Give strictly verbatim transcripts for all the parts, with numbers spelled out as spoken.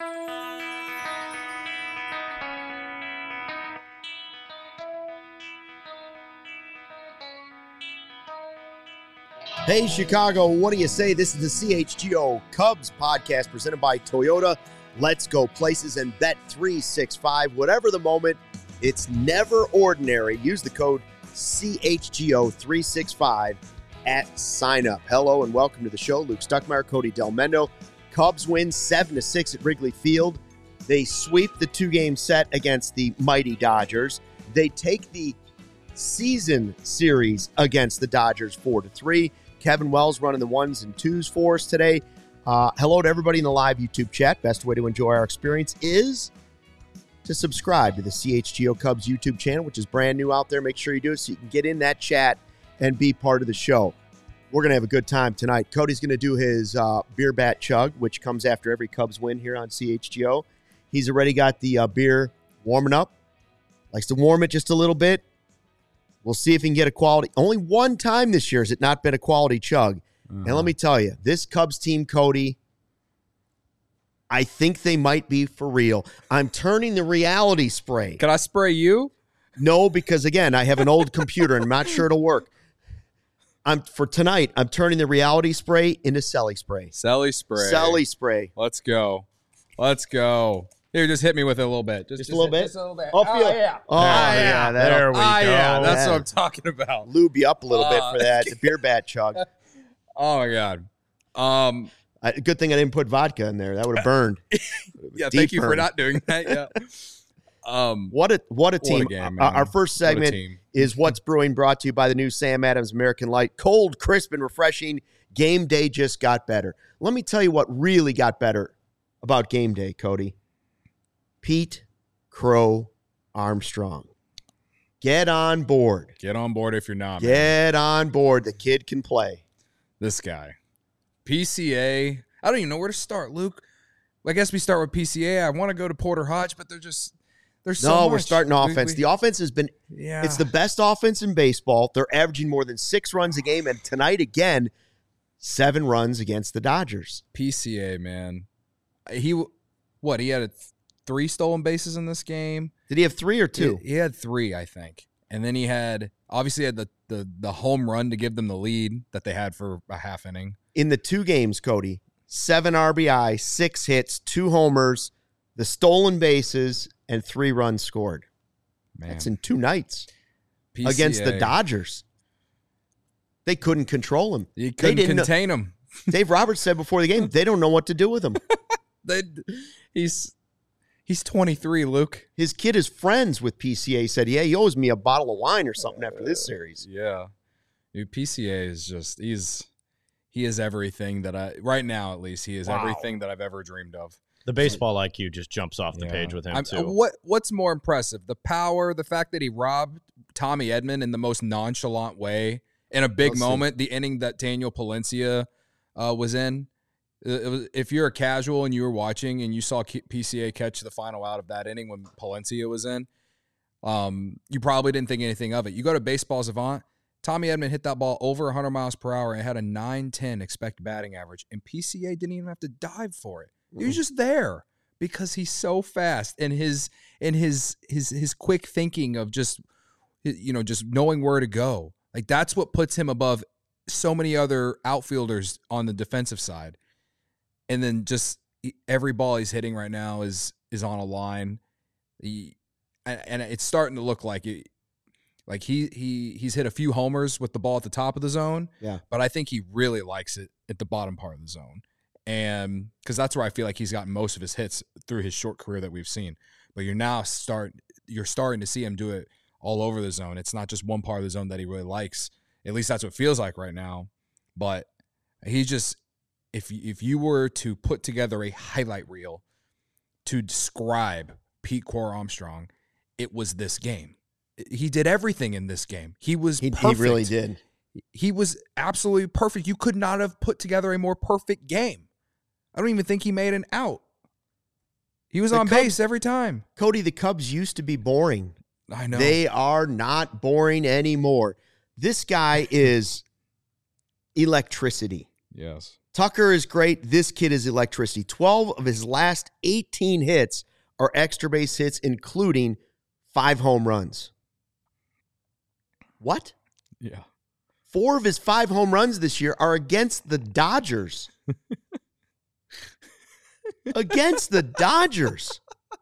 Hey, Chicago, what do you say? This is the C H G O Cubs podcast presented by Toyota. Let's go places and bet three sixty-five. Whatever the moment, it's never ordinary. Use the code C H G O three sixty-five at sign up. Hello and welcome to the show. Luke Stuckmeyer, Cody Delmendo. Cubs win seven to six at Wrigley Field. They sweep the two-game set against the mighty Dodgers. They take the season series against the Dodgers four to three. Kevin Wells running the ones and twos for us today. Uh, hello to everybody in the live YouTube chat. Best way to enjoy our experience is to subscribe to the C H G O Cubs YouTube channel, which is brand new out there. Make sure you do it so you can get in that chat and be part of the show. We're going to have a good time tonight. Cody's going to do his uh, beer bat chug, which comes after every Cubs win here on C H G O. He's already got the uh, beer warming up. Likes to warm it just a little bit. We'll see if he can get a quality. Only one time this year has it not been a quality chug. Uh-huh. And let me tell you, this Cubs team, Cody, I think they might be for real. I'm turning the reality spray. Can I spray you? No, because, again, I have an old computer, and I'm not sure it'll work. I'm For tonight, I'm turning the reality spray into Selly spray. Selly spray. Selly spray. Let's go. Let's go. Here, just hit me with it a little bit. Just, just, just a little bit? Just a little bit. Oh, oh yeah. Oh, yeah. yeah there we oh, go. yeah. That's yeah. what I'm talking about. Lube you up a little uh, bit for that. The beer bat chug. Oh, my God. Um, I, good thing I didn't put vodka in there. That would have burned. yeah, Deep thank you burn. for not doing that. Yeah. Um, what a what a team. What a game, our, our first segment is What's Brewing, brought to you by the new Sam Adams American Light. Cold, crisp, and refreshing. Game day just got better. Let me tell you what really got better about game day, Cody. Pete Crow Armstrong. Get on board. Get on board if you're not. Get man. on board. The kid can play. This guy. P C A. I don't even know where to start, Luke. I guess we start with P C A. I want to go to Porter Hodge, but they're just there's so No, much. we're starting offense. We, we, the offense has been yeah. It's the best offense in baseball. They're averaging more than six runs a game, and tonight again, seven runs against the Dodgers. P C A, man. He what? He had a three stolen bases in this game. Did he have three or two? He, he had three, I think. And then he had obviously had the, the the home run to give them the lead that they had for a half inning. In the two games, Cody, seven R B I, six hits, two homers, the stolen bases, and three runs scored. Man. That's in two nights P C A. Against the Dodgers. They couldn't control him. You couldn't they didn't contain know. him. Dave Roberts said before the game, they don't know what to do with him. they, he's he's twenty-three, Luke. His kid is friends with P C A. He said, yeah, he owes me a bottle of wine or something after this series. Yeah. Dude, P C A is just, he's, he is everything that I, right now at least, he is Wow. everything that I've ever dreamed of. The baseball I Q just jumps off the Yeah. page with him, I'm, too. uh, what What's more impressive? The power, the fact that he robbed Tommy Edman in the most nonchalant way in a big Let's see. moment, the inning that Daniel Palencia uh, was in. It was, if you're a casual and you were watching and you saw P C A catch the final out of that inning when Palencia was in, um, you probably didn't think anything of it. You go to Baseball Savant, Tommy Edman hit that ball over one hundred miles per hour and had a nine ten expected batting average, and P C A didn't even have to dive for it. He was just there because he's so fast, and his and his his his quick thinking of just you know just knowing where to go. Like that's what puts him above so many other outfielders on the defensive side. And then just every ball he's hitting right now is is on a line. He, and, and it's starting to look like it, like he he he's hit a few homers with the ball at the top of the zone. Yeah. But I think he really likes it at the bottom part of the zone. And because that's where I feel like he's gotten most of his hits through his short career that we've seen. But you're now start you're starting to see him do it all over the zone. It's not just one part of the zone that he really likes. At least that's what it feels like right now. But he just if if you were to put together a highlight reel to describe Pete Crow Armstrong, it was this game. He did everything in this game. He was He, perfect. he really did. He was absolutely perfect. You could not have put together a more perfect game. I don't even think he made an out. He was The on Cubs- base every time. Cody, the Cubs used to be boring. I know. They are not boring anymore. This guy is electricity. yes. Tucker is great. This kid is electricity. twelve of his last eighteen hits are extra base hits, including five home runs. What? Yeah. Four of his five home runs this year are against the Dodgers. Against the Dodgers.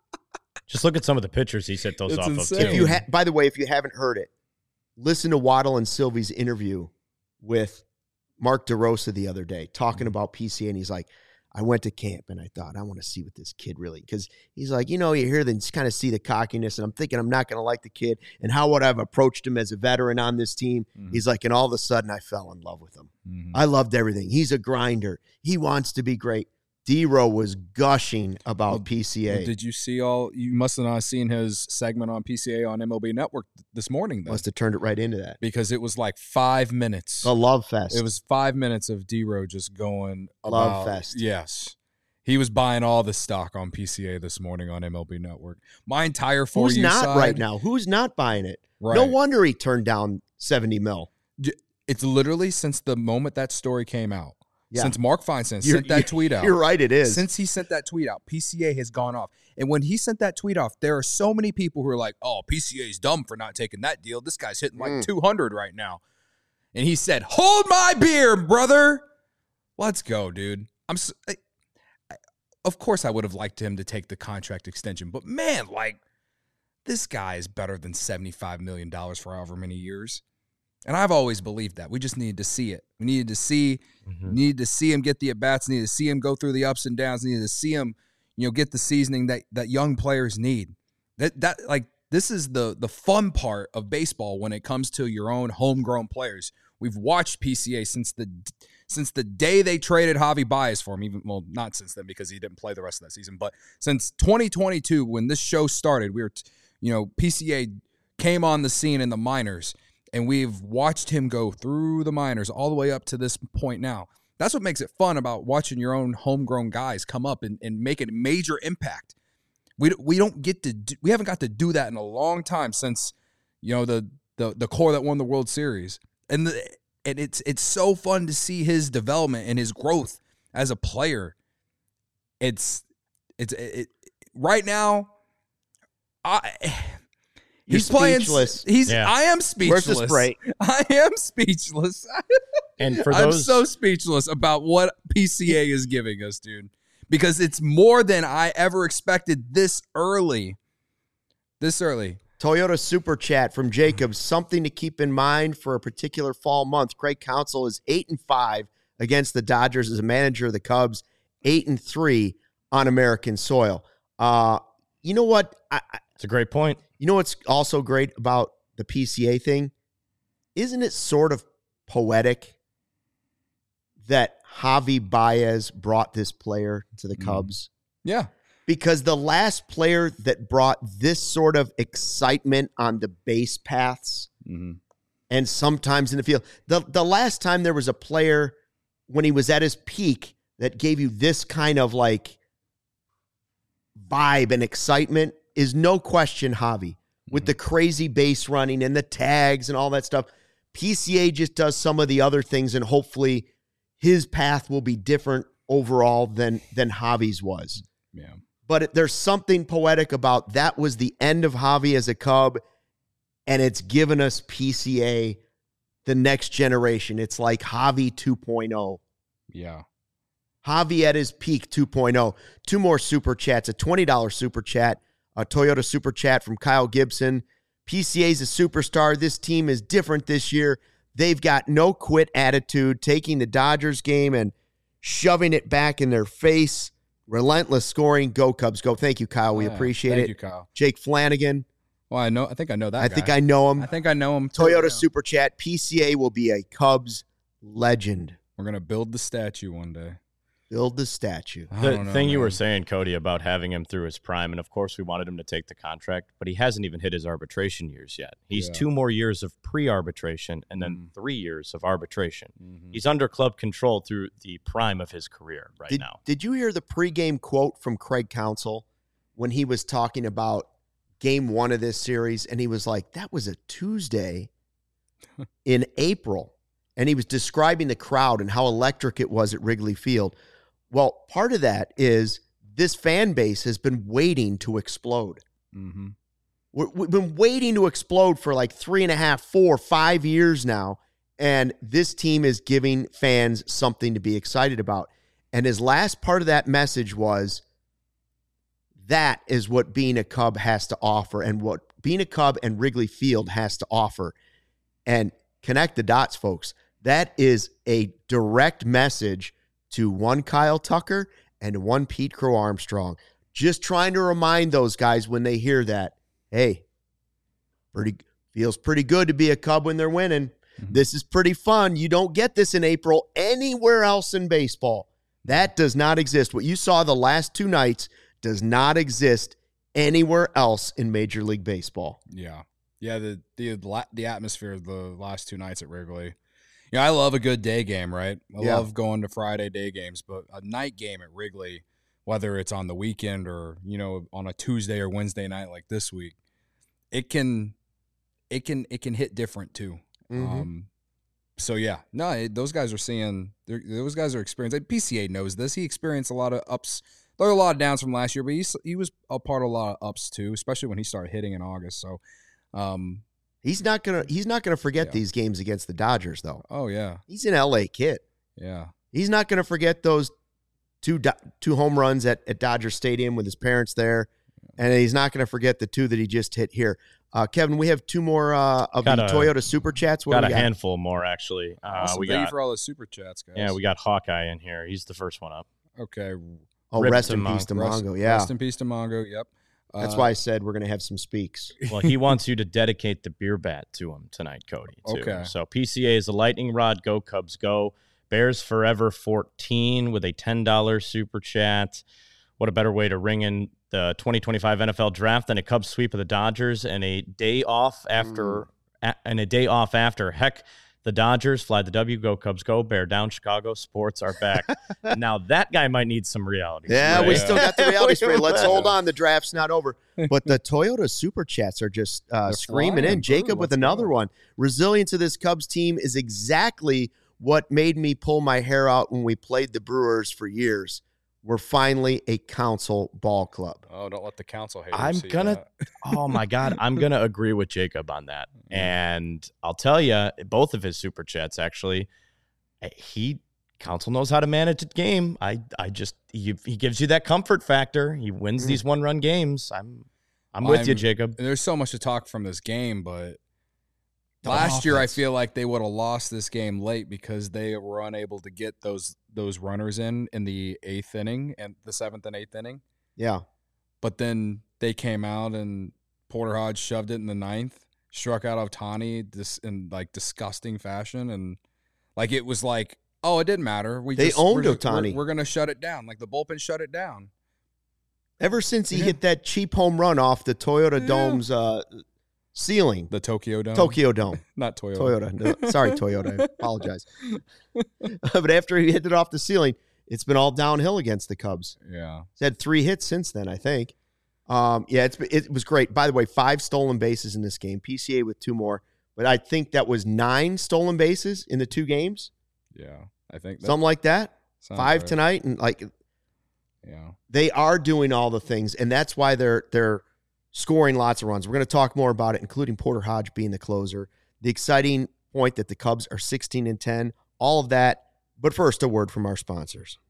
Just look at some of the pitchers he set those It's off insane. of, If too. you ha- by the way, if you haven't heard it, listen to Waddle and Sylvie's interview with Mark DeRosa the other day talking about P C A, and he's like, I went to camp and I thought, I want to see what this kid really, because he's like, you know, you hear them kind of see the cockiness, and I'm thinking I'm not going to like the kid, and how would I have approached him as a veteran on this team? Mhm. He's like, and all of a sudden I fell in love with him. Mhm. I loved everything. He's a grinder. He wants to be great. D-Row was gushing about Well, P C A. Well, did you see all? You must have not seen his segment on P C A on M L B Network this morning, then, Must have turned it right into that. because it was like five minutes. A love fest. It was five minutes of D-Row just going Love about, fest. Yes. He was buying all the stock on P C A this morning on M L B Network. My entire for Who's you not side, right now? Who's not buying it? Right. No wonder he turned down seventy mil. It's literally since the moment that story came out. Yeah. Since Mark Feinstein You're- sent that tweet out. You're right, it is. Since he sent that tweet out, P C A has gone off. And when he sent that tweet off, there are so many people who are like, oh, P C A's dumb for not taking that deal. This guy's hitting like Mm. two hundred right now. And he said, hold my beer, brother. Let's go, dude. I'm so, I, I, Of course I would have liked him to take the contract extension. But, man, like, this guy is better than seventy-five million dollars for however many years. And I've always believed that. We just needed to see it. We needed to see Mhm. needed to see him get the at-bats, needed to see him go through the ups and downs, needed to see him, you know, get the seasoning that, that young players need. That that like this is the the fun part of baseball when it comes to your own homegrown players. We've watched P C A since the since the day they traded Javi Baez for him, even well, not since then because he didn't play the rest of that season, but since twenty twenty-two when this show started, we were you know, P C A came on the scene in the minors. And we've watched him go through the minors all the way up to this point now. That's what makes it fun about watching your own homegrown guys come up and, and make a major impact. We we don't get to do, we haven't got to do that in a long time since you know the the the core that won the World Series. And the, and it's it's so fun to see his development and his growth as a player. It's it's it, it, right now. I. You're He's playing. speechless. He's. Yeah. I am speechless. Where's the spray? I am speechless. And for I'm those, so speechless about what P C A is giving us, dude. Because it's more than I ever expected this early. This early. Toyota Super Chat from Jacob. Something to keep in mind for a particular fall month. Craig Counsell is eight and five against the Dodgers as a manager of the Cubs. Eight and three on American soil. Uh, you know what? I, I, it's a great point. You know what's also great about the P C A thing? Isn't it sort of poetic that Javi Baez brought this player to the Cubs? Yeah. Because the last player that brought this sort of excitement on the base paths Mm-hmm. and sometimes in the field, the, the last time there was a player when he was at his peak that gave you this kind of like vibe and excitement is no question Javi. With the crazy base running and the tags and all that stuff. P C A just does some of the other things, and hopefully his path will be different overall than, than Javi's was. Yeah. But it, there's something poetic about that was the end of Javi as a Cub, and it's given us P C A, the next generation. It's like Javi two point oh. Yeah. Javi at his peak two point oh. Two more super chats, a twenty dollars super chat. A Toyota Super Chat from Kyle Gibson. P C A's a superstar. This team is different this year. They've got no quit attitude, taking the Dodgers game and shoving it back in their face. Relentless scoring. Go Cubs, go. Thank you, Kyle. We Yeah. appreciate Thank it. you, Kyle. Jake Flanagan. Well, I know. I think I know that. I guy. think I know him. I think I know him. too, Toyota yeah. Super Chat. P C A will be a Cubs legend. We're gonna build the statue one day. Build the statue. I The don't know, thing you man. were saying, Cody, about having him through his prime, and of course we wanted him to take the contract, but he hasn't even hit his arbitration years yet. He's Yeah. two more years of pre-arbitration and then Mhm. three years of arbitration. Mhm. He's under club control through the prime of his career right Did, now. did you hear the pregame quote from Craig Counsell when he was talking about game one of this series? And he was like, that was a Tuesday in April. and he was describing the crowd and how electric it was at Wrigley Field. Well, part of that is this fan base has been waiting to explode. Mm-hmm. We've been waiting to explode for like three and a half, four, five years now, and this team is giving fans something to be excited about. And his last part of that message was, that is what being a Cub has to offer and what being a Cub and Wrigley Field has to offer. And connect the dots, folks. That is a direct message to one Kyle Tucker and one Pete Crow Armstrong. Just trying to remind those guys when they hear that, hey, pretty feels pretty good to be a Cub when they're winning. Mm-hmm. This is pretty fun. You don't get this in April anywhere else in baseball. That does not exist. What you saw the last two nights does not exist anywhere else in Major League Baseball. Yeah. Yeah, the the the atmosphere of the last two nights at Wrigley. Yeah, I love a good day game, right? I yeah. love going to Friday day games, but a night game at Wrigley, whether it's on the weekend or, you know, on a Tuesday or Wednesday night like this week, it can it can it can hit different too. Mm-hmm. Um so yeah, no, it, those guys are seeing those guys are experiencing. P C A knows this. He experienced a lot of ups. There were a lot of downs from last year, but he's, he was a part of a lot of ups too, especially when he started hitting in August. So um he's not gonna he's not gonna forget yeah. these games against the Dodgers, though. Oh yeah, he's an L A kid. Yeah, he's not gonna forget those two do, two home runs at, at Dodger Stadium with his parents there, and he's not gonna forget the two that he just hit here. Uh, Kevin, we have two more uh, of got the a, Toyota Super Chats. What got, we got a handful more actually. Uh, awesome. we Thank got, you for all the Super Chats, guys. Yeah, we got Hawkeye in here. He's the first one up. Okay. Oh, Rip rest in peace to Mongo. Yeah, rest in peace to Mongo. Yep. That's uh, why I said we're going to have some speaks. Well, he wants you to dedicate the beer bat to him tonight, Cody. Too. Okay. So P C A is a lightning rod. Go Cubs, go. Bears Forever fourteen with a ten dollars super chat. What a better way to ring in the twenty twenty-five N F L draft than a Cubs sweep of the Dodgers and a day off after mm. a, and a day off after. Heck, the Dodgers fly the W. Go Cubs, go. Bear down. Chicago sports are back. Now that guy might need some reality. Yeah, spray. we still got the reality spray. Let's hold on. The draft's not over. But the Toyota Super Chats are just uh, screaming in. Jacob with another go. one. Resilience of this Cubs team is exactly what made me pull my hair out when we played the Brewers for years. We're finally a council ball club. Oh, don't let the council haters I'm see gonna. That. Oh my God, I'm gonna agree with Jacob on that. And I'll tell you, both of his super chats actually, he council knows how to manage a game. I, I just he, he gives you that comfort factor. He wins mm. these one run games. I'm, I'm with I'm, you, Jacob. There's so much to talk from this game, but. Last year, I feel like they would have lost this game late because they were unable to get those those runners in in the eighth inning and the seventh and eighth inning. Yeah, but then they came out and Porter Hodge shoved it in the ninth, struck out Ohtani this in like disgusting fashion, and like it was like, oh, it didn't matter. We they just, owned we're, Ohtani. We're, we're gonna shut it down. Like the bullpen shut it down. Ever since he yeah. hit that cheap home run off the Toyota yeah. Dome's. Uh, Ceiling. The Tokyo Dome. Tokyo Dome. Not Toyota. Toyota. No, sorry, Toyota. I apologize. But after he hit it off the ceiling, it's been all downhill against the Cubs. Yeah. He's had three hits since then, I think. Um, yeah, it's it was great. By the way, five stolen bases in this game. P C A with two more. But I think that was nine stolen bases in the two games. Yeah, I think. Something like that. Five right. tonight. And like, yeah, they are doing all the things. And that's why they're they're – scoring lots of runs. We're going to talk more about it, including Porter Hodge being the closer. The exciting point that the Cubs are sixteen and ten, all of that. But first, a word from our sponsors.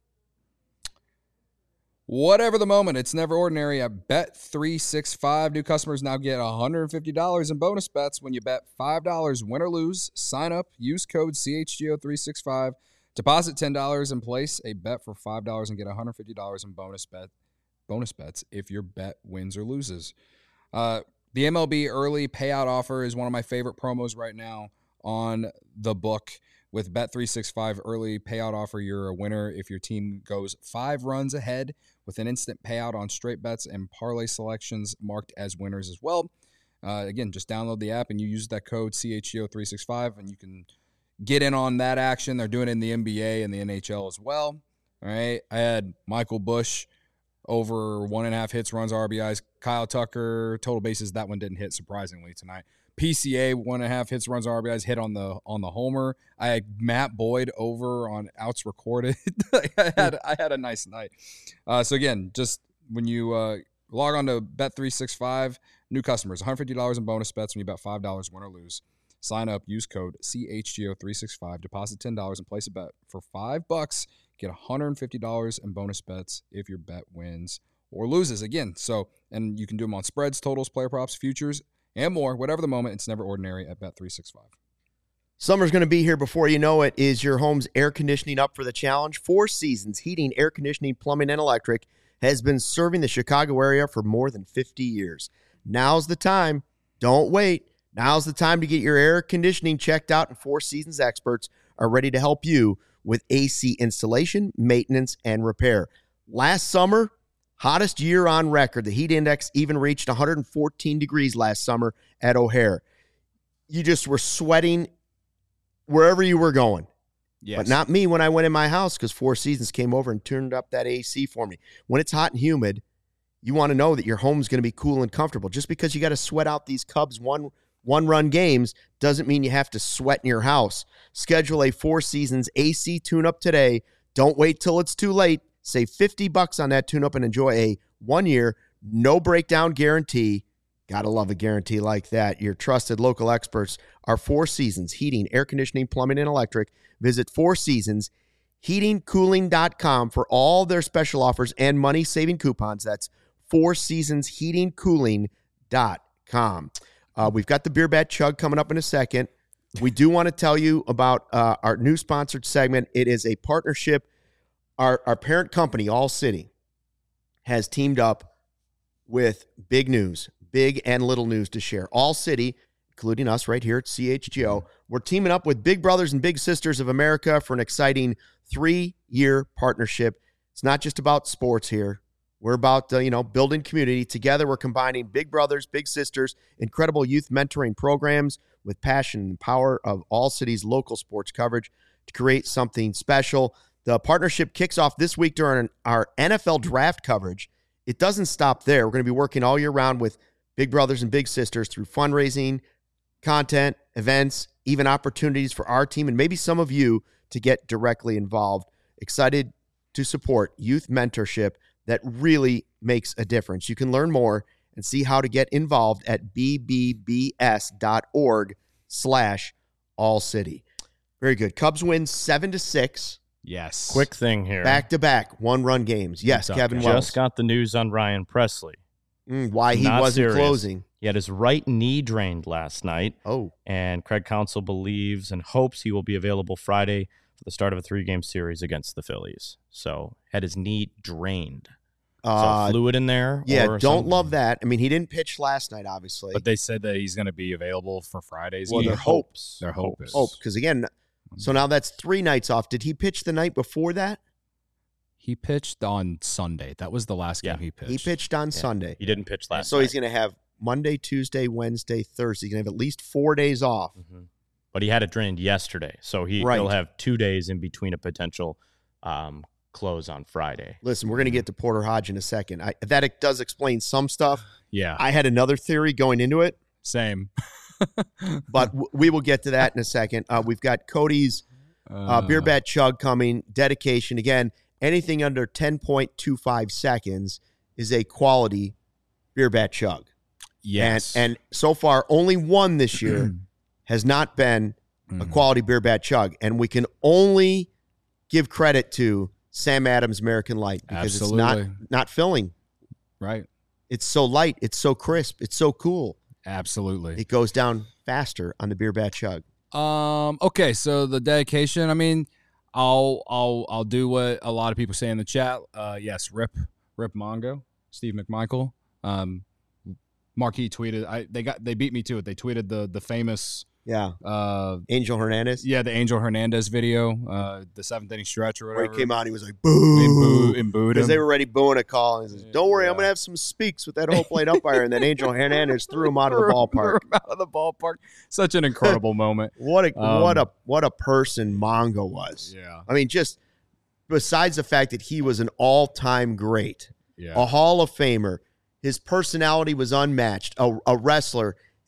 Whatever the moment, it's never ordinary at Bet three sixty-five. New customers now get one hundred fifty dollars in bonus bets when you bet five dollars win or lose. Sign up, use code C H G O three sixty-five, deposit ten dollars and place a bet for five dollars and get one hundred fifty dollars in bonus bet. bonus bets if your bet wins or loses. Uh, the M L B early payout offer is one of my favorite promos right now on the book. With Bet three sixty-five early payout offer, you're a winner if your team goes five runs ahead with an instant payout on straight bets and parlay selections marked as winners as well. Uh, again, just download the app and you use that code C H G O three sixty-five and you can get in on that action. They're doing it in the N B A and the N H L as well. All right. I had Michael Busch over one and a half hits, runs, R B Is. Kyle Tucker, total bases. That one didn't hit, surprisingly, tonight. P C A one and a half hits, runs, R B Is hit on the on the homer. I had Matt Boyd over on outs recorded. I had I had a nice night. Uh, so again, just when you uh, log on to Bet three sixty-five, new customers, one hundred fifty dollars in bonus bets when you bet five dollars, win or lose. Sign up, use code C H G O three sixty-five, deposit ten dollars and place a bet for five bucks. Get one hundred fifty dollars in bonus bets if your bet wins or loses. Again, so and you can do them on spreads, totals, player props, futures, and more. Whatever the moment, it's never ordinary at Bet three sixty-five. Summer's going to be here before you know it. Is your home's air conditioning up for the challenge? Four Seasons Heating, Air Conditioning, Plumbing, and Electric has been serving the Chicago area for more than fifty years. Now's the time. Don't wait. Now's the time to get your air conditioning checked out, and Four Seasons experts are ready to help you with A C installation, maintenance, and repair. Last summer, hottest year on record. The heat index even reached one hundred fourteen degrees last summer at O'Hare. You just were sweating wherever you were going. Yes. But not me when I went in my house, because Four Seasons came over and turned up that A C for me. When it's hot and humid, you want to know that your home's going to be cool and comfortable. Just because you got to sweat out these Cubs one one-run games doesn't mean you have to sweat in your house. Schedule a Four Seasons A C tune-up today. Don't wait till it's too late. Save fifty bucks on that tune-up and enjoy a one-year, no-breakdown guarantee. Gotta love a guarantee like that. Your trusted local experts are Four Seasons Heating, Air Conditioning, Plumbing, and Electric. Visit Four Seasons Heating Cooling dot com for all their special offers and money-saving coupons. That's Four Seasons Heating Cooling dot com. Uh, we've got the Beer Bat Chug coming up in a second. We do want to tell you about uh, our new sponsored segment. It is a partnership. Our, our parent company, All City, has teamed up with big news, big and little news to share. All City, including us right here at C H G O, we're teaming up with Big Brothers and Big Sisters of America for an exciting three-year partnership. It's not just about sports here. We're about, uh, you know, building community. Together, we're combining Big Brothers, Big Sisters, incredible youth mentoring programs with passion and power of All City's local sports coverage to create something special. The partnership kicks off this week during our N F L draft coverage. It doesn't stop there. We're going to be working all year round with Big Brothers and Big Sisters through fundraising, content, events, even opportunities for our team and maybe some of you to get directly involved. Excited to support youth mentorship that really makes a difference. You can learn more and see how to get involved at b b b s dot org slash all city. Very good. Cubs win seven to six. Yes. Quick thing here. Back-to-back one-run games. Yes, Just Kevin Wells. Just got the news on Ryan Presley. Mm, why he Not wasn't serious. closing. He had his right knee drained last night. Oh. And Craig Counsell believes and hopes he will be available Friday for the start of a three-game series against the Phillies. So had his knee drained. Uh, so fluid in there. Yeah, or don't something. love that. I mean, he didn't pitch last night, obviously. But they said that he's going to be available for Fridays. Well, He their hopes. hopes. Their hope is. Hope, because again, so now that's three nights off. Did he pitch the night before that? He pitched on Sunday. That was the last game Yeah. he pitched. He pitched on Yeah. Sunday. He didn't pitch last So night. he's going to have Monday, Tuesday, Wednesday, Thursday. He's going to have at least four days off. Mhm. But he had it drained yesterday. So he, Right. he'll have two days in between a potential um, close on Friday. Listen, we're going to get to Porter Hodge in a second. I, that it does explain some stuff. Yeah. I had another theory going into it, Same. but w- we will get to that in a second. Uh, we've got Cody's uh, Beer Bat Chug coming. Dedication. Again, anything under ten point two five seconds is a quality Beer Bat Chug. Yes. And, and so far, only one this year has not been a quality Beer Bat Chug. And we can only give credit to Sam Adams American Light because Absolutely. it's not, not filling. Right. It's so light. It's so crisp. It's so cool. Absolutely. It goes down faster on the Beer Bat Chug. Um. Okay. So the dedication. I mean, I'll I'll I'll do what a lot of people say in the chat. Uh. Yes. Rip Rip Mongo. Steve McMichael. Um. Marquis tweeted. I they got they beat me to it. They tweeted the the famous. Yeah. Uh. Angel Hernandez. Yeah. The Angel Hernandez video. Uh. The seventh inning stretch or Where whatever. he came out, he was like, And boo. boo and booed Because him. they were already booing a call. And he says, don't worry, I'm Yeah. going to have some speaks with that whole plate umpire. And then Angel Hernandez threw him out of the Threw him ballpark. out of the ballpark. Such an incredible moment. What a Um, what a what a person Mongo was. Yeah. I mean, just besides the fact that he was an all-time great, Yeah. a Hall of Famer, his personality was unmatched, a, a wrestler,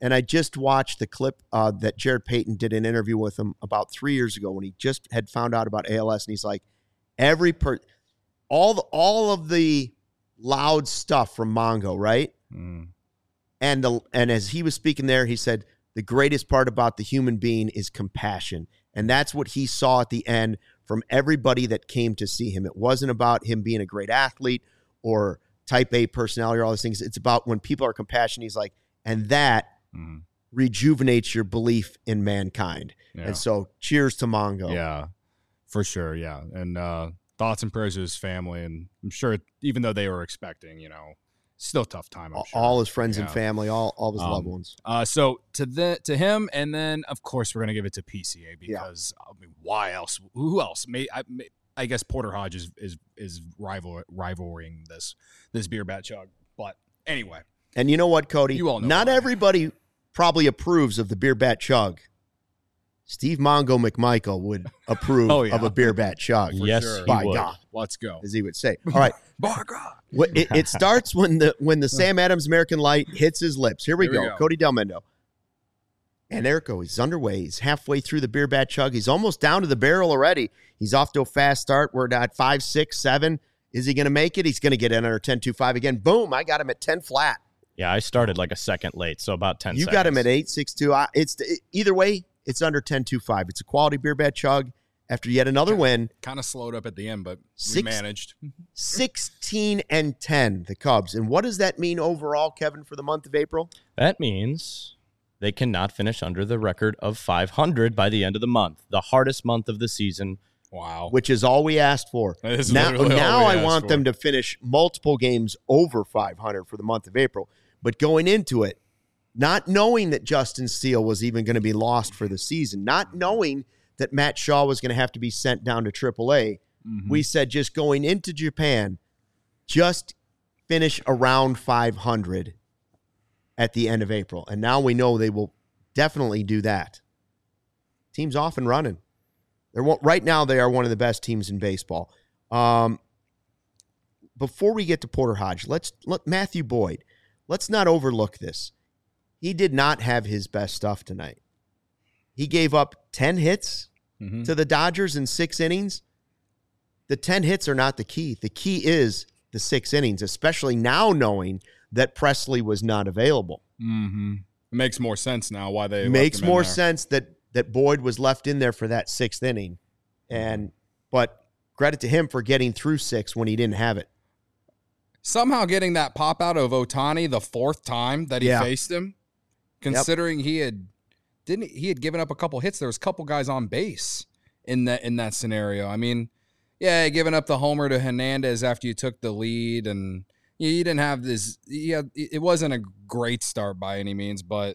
And I just watched the clip uh, that Jared Payton did an interview with him about three years ago when he just had found out about A L S. And he's like, every per, all the, all of the loud stuff from Mongo, right? Mm. And the, and as he was speaking there, he said, the greatest part about the human being is compassion. And that's what he saw at the end from everybody that came to see him. It wasn't about him being a great athlete or type A personality or all those things. It's about when people are compassionate, he's like, and that mm-hmm. rejuvenates your belief in mankind. Yeah. And so cheers to Mongo. Yeah, for sure. Yeah. And uh, thoughts and prayers to his family. And I'm sure even though they were expecting, you know, still a tough time. I'm all, sure. all his friends yeah. and family, all, all of his um, loved ones. Uh, so to the to him, and then of course we're gonna give it to P C A because yeah. I mean, why else? Who else? May I, may, I guess Porter Hodge is is is rival rivaling this this beer bat chug. But anyway, and you know what, Cody? You all know not why. everybody probably approves of the beer bat chug. Steve Mongo McMichael would approve oh, yeah. of a beer bat chug. For yes, sure. by would. God, let's go, as he would say. All right, by God. It, it starts when the when the Sam Adams American Light hits his lips. Here we, Here we go. go, Cody Delmendo. And there it goes. He's underway. He's halfway through the beer bat chug. He's almost down to the barrel already. He's off to a fast start. We're at five, six, seven. Is he going to make it? He's going to get in under ten two five again. Boom! I got him at ten flat. Yeah, I started like a second late, so about ten. You seconds. got him at eight six two. It's it, either way. It's under ten two five. It's a quality beer bat chug. After yet another win. Kind of slowed up at the end, but Six, we managed. sixteen and ten, the Cubs. And what does that mean overall, Kevin, for the month of April? That means they cannot finish under the record of five hundred by the end of the month. The hardest month of the season. Wow. Which is all we asked for. Now, now I want for. them to finish multiple games over five hundred for the month of April. But going into it, not knowing that Justin Steele was even going to be lost for the season, not knowing that Matt Shaw was going to have to be sent down to triple A, mm-hmm. we said just going into Japan, just finish around five hundred at the end of April. And now we know they will definitely do that. Team's off and running. They're right now they are one of the best teams in baseball. Um, before we get to Porter Hodge, let's let Matthew Boyd. Let's not overlook this. He did not have his best stuff tonight. He gave up ten hits mm-hmm. to the Dodgers in six innings. The ten hits are not the key. The key is the six innings, especially now knowing that Presley was not available. Mm-hmm. It makes more sense now why they makes left him more in there. sense that that Boyd was left in there for that sixth inning. And but credit to him for getting through six when he didn't have it. Somehow getting that pop out of Ohtani the fourth time that he yeah. faced him, considering yep. he had didn't he had given up a couple hits. There was a couple guys on base in that in that scenario. I mean, yeah, giving up the homer to Hernandez after you took the lead, and you, you didn't have this. Yeah, it wasn't a great start by any means, but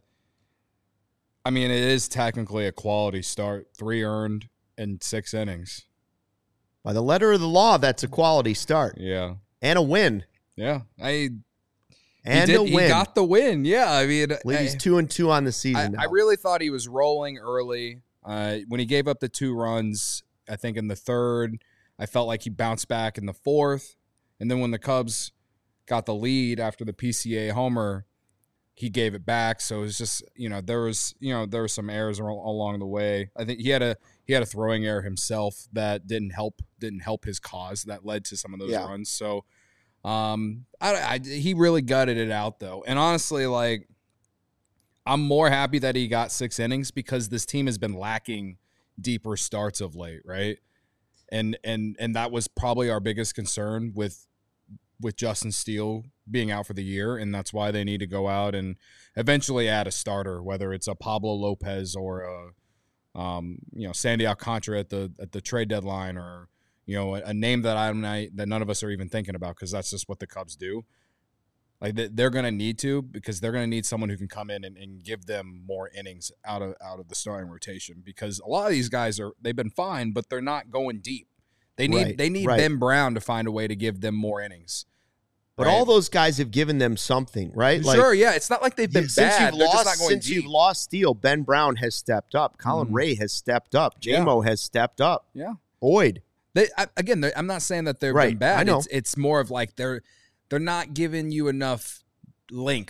I mean, it is technically a quality start. Three earned in six innings. By the letter of the law, that's a quality start. Yeah, and a win. Yeah, I. And he, did, a win. He got the win. Yeah, I mean, I believe he's two and two on the season. I, I really thought he was rolling early. Uh, when he gave up the two runs, I think in the third, I felt like he bounced back in the fourth, and then when the Cubs got the lead after the P C A homer, he gave it back. So it was just, you know, there was, you know, there were some errors along the way. I think he had a he had a throwing error himself that didn't help didn't help his cause that led to some of those yeah. runs. So. Um, I, I, he really gutted it out though. And honestly, like, I'm more happy that he got six innings because this team has been lacking deeper starts of late. Right. And, and, and that was probably our biggest concern with, with Justin Steele being out for the year. And that's why they need to go out and eventually add a starter, whether it's a Pablo Lopez or a, um, you know, Sandy Alcantara at the, at the trade deadline, or, you know, a, a name that I'm not, that none of us are even thinking about because that's just what the Cubs do. Like they, they're going to need to because they're going to need someone who can come in and, and give them more innings out of out of the starting rotation because a lot of these guys are they've been fine, but they're not going deep. They need right, they need right. Ben Brown to find a way to give them more innings. But right? all those guys have given them something, right? Like, sure, like, yeah. It's not like they've been you, since bad. You've they're lost, just not going since deep. you've lost Steele, Ben Brown has stepped up. Colin mm. Ray has stepped up. J-Mo yeah. has stepped up. Yeah. Boyd. They, I, again, I'm not saying that they've right. been bad. I know. It's, it's more of like they're they're not giving you enough length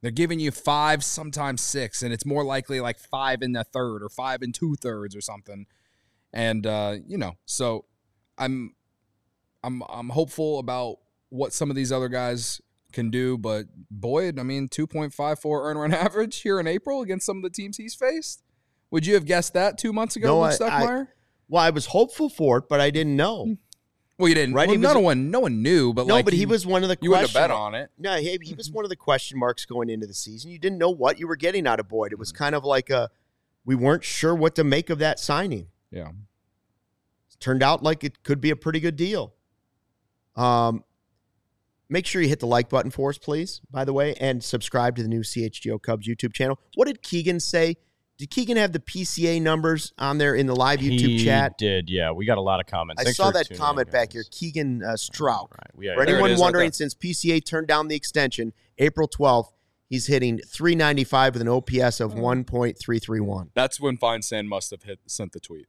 They're giving you five, sometimes six, and it's more likely like five in the third or five and two thirds or something. And uh, you know, so I'm I'm I'm hopeful about what some of these other guys can do, but Boyd, I mean, two point five four earn run average here in April against some of the teams he's faced. Would you have guessed that two months ago, No, Luke Stuckmeyer? Well, I was hopeful for it, but I didn't know. Well, you didn't. Right? Well, He no was- one, no one knew, but No, like but he was one of the You would have question bet on it. No, he, he was one of the question marks going into the season. You didn't know what you were getting out of Boyd. It was kind of like a, we weren't sure what to make of that signing. Yeah. Turned out like it could be a pretty good deal. Um, make sure you hit the like button for us, please, by the way, and subscribe to the new C H G O Cubs YouTube channel. What did Keegan say? Did Keegan have the P C A numbers on there in the live YouTube he chat? did, yeah. We got a lot of comments. I Thanks saw for that tuning comment in, back guys. here. Keegan uh, Strout. Right. We, yeah, For There it anyone is right wondering, there. since P C A turned down the extension, April twelfth, he's hitting three ninety-five with an O P S of one point three three one. That's when Feinstein must have hit sent the tweet.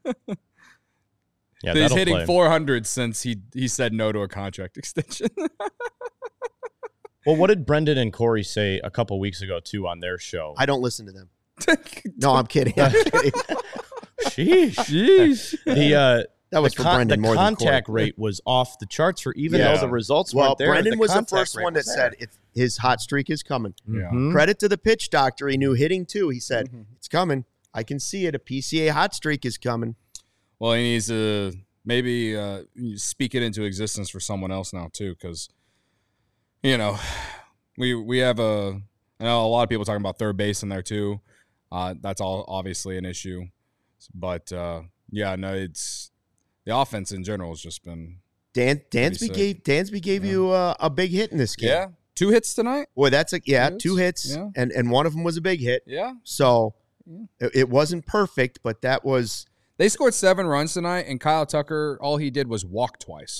yeah, He's that'll hitting play. four hundred since he he said no to a contract extension. Well, what did Brendan and Corey say a couple weeks ago, too, on their show? I don't listen to them. No, I'm kidding. I'm kidding. Sheesh. Jeez. The, uh, That was the for con- Brendan the more than contact Corey. rate was off the charts for even Yeah. though the results Well, weren't there. Brendan was the contact first rate one that was said there. if his hot streak is coming. Yeah. Mhm. Credit to the pitch doctor. He knew hitting too. He said, Mhm. it's coming. I can see it. A P C A hot streak is coming. Well, he needs to maybe uh, speak it into existence for someone else now too, because you know we we have a I know a lot of people talking about third base in there too. Uh, that's all obviously an issue, but uh, yeah, no, it's the offense in general has just been Dan Dansby sick. gave Dansby gave Yeah. you uh, a big hit in this game. yeah two hits tonight. Boy, that's a yeah, Two two hits, hits, yeah. and and one of them was a big hit. Yeah, So Yeah. it, it wasn't perfect, but that was they scored seven runs tonight, and Kyle Tucker all he did was walk twice.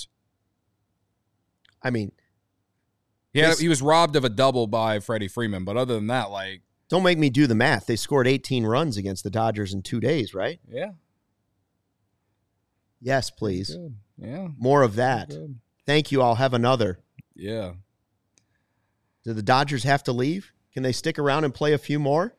I mean, He had, This- he was robbed of a double by Freddie Freeman, but other than that, like don't make me do the math. They scored eighteen runs against the Dodgers in two days, right? yeah, Yes, please. good. Yeah, More of that. good. Thank you. I'll have another. Yeah. Do the Dodgers have to leave? Can they stick around and play a few more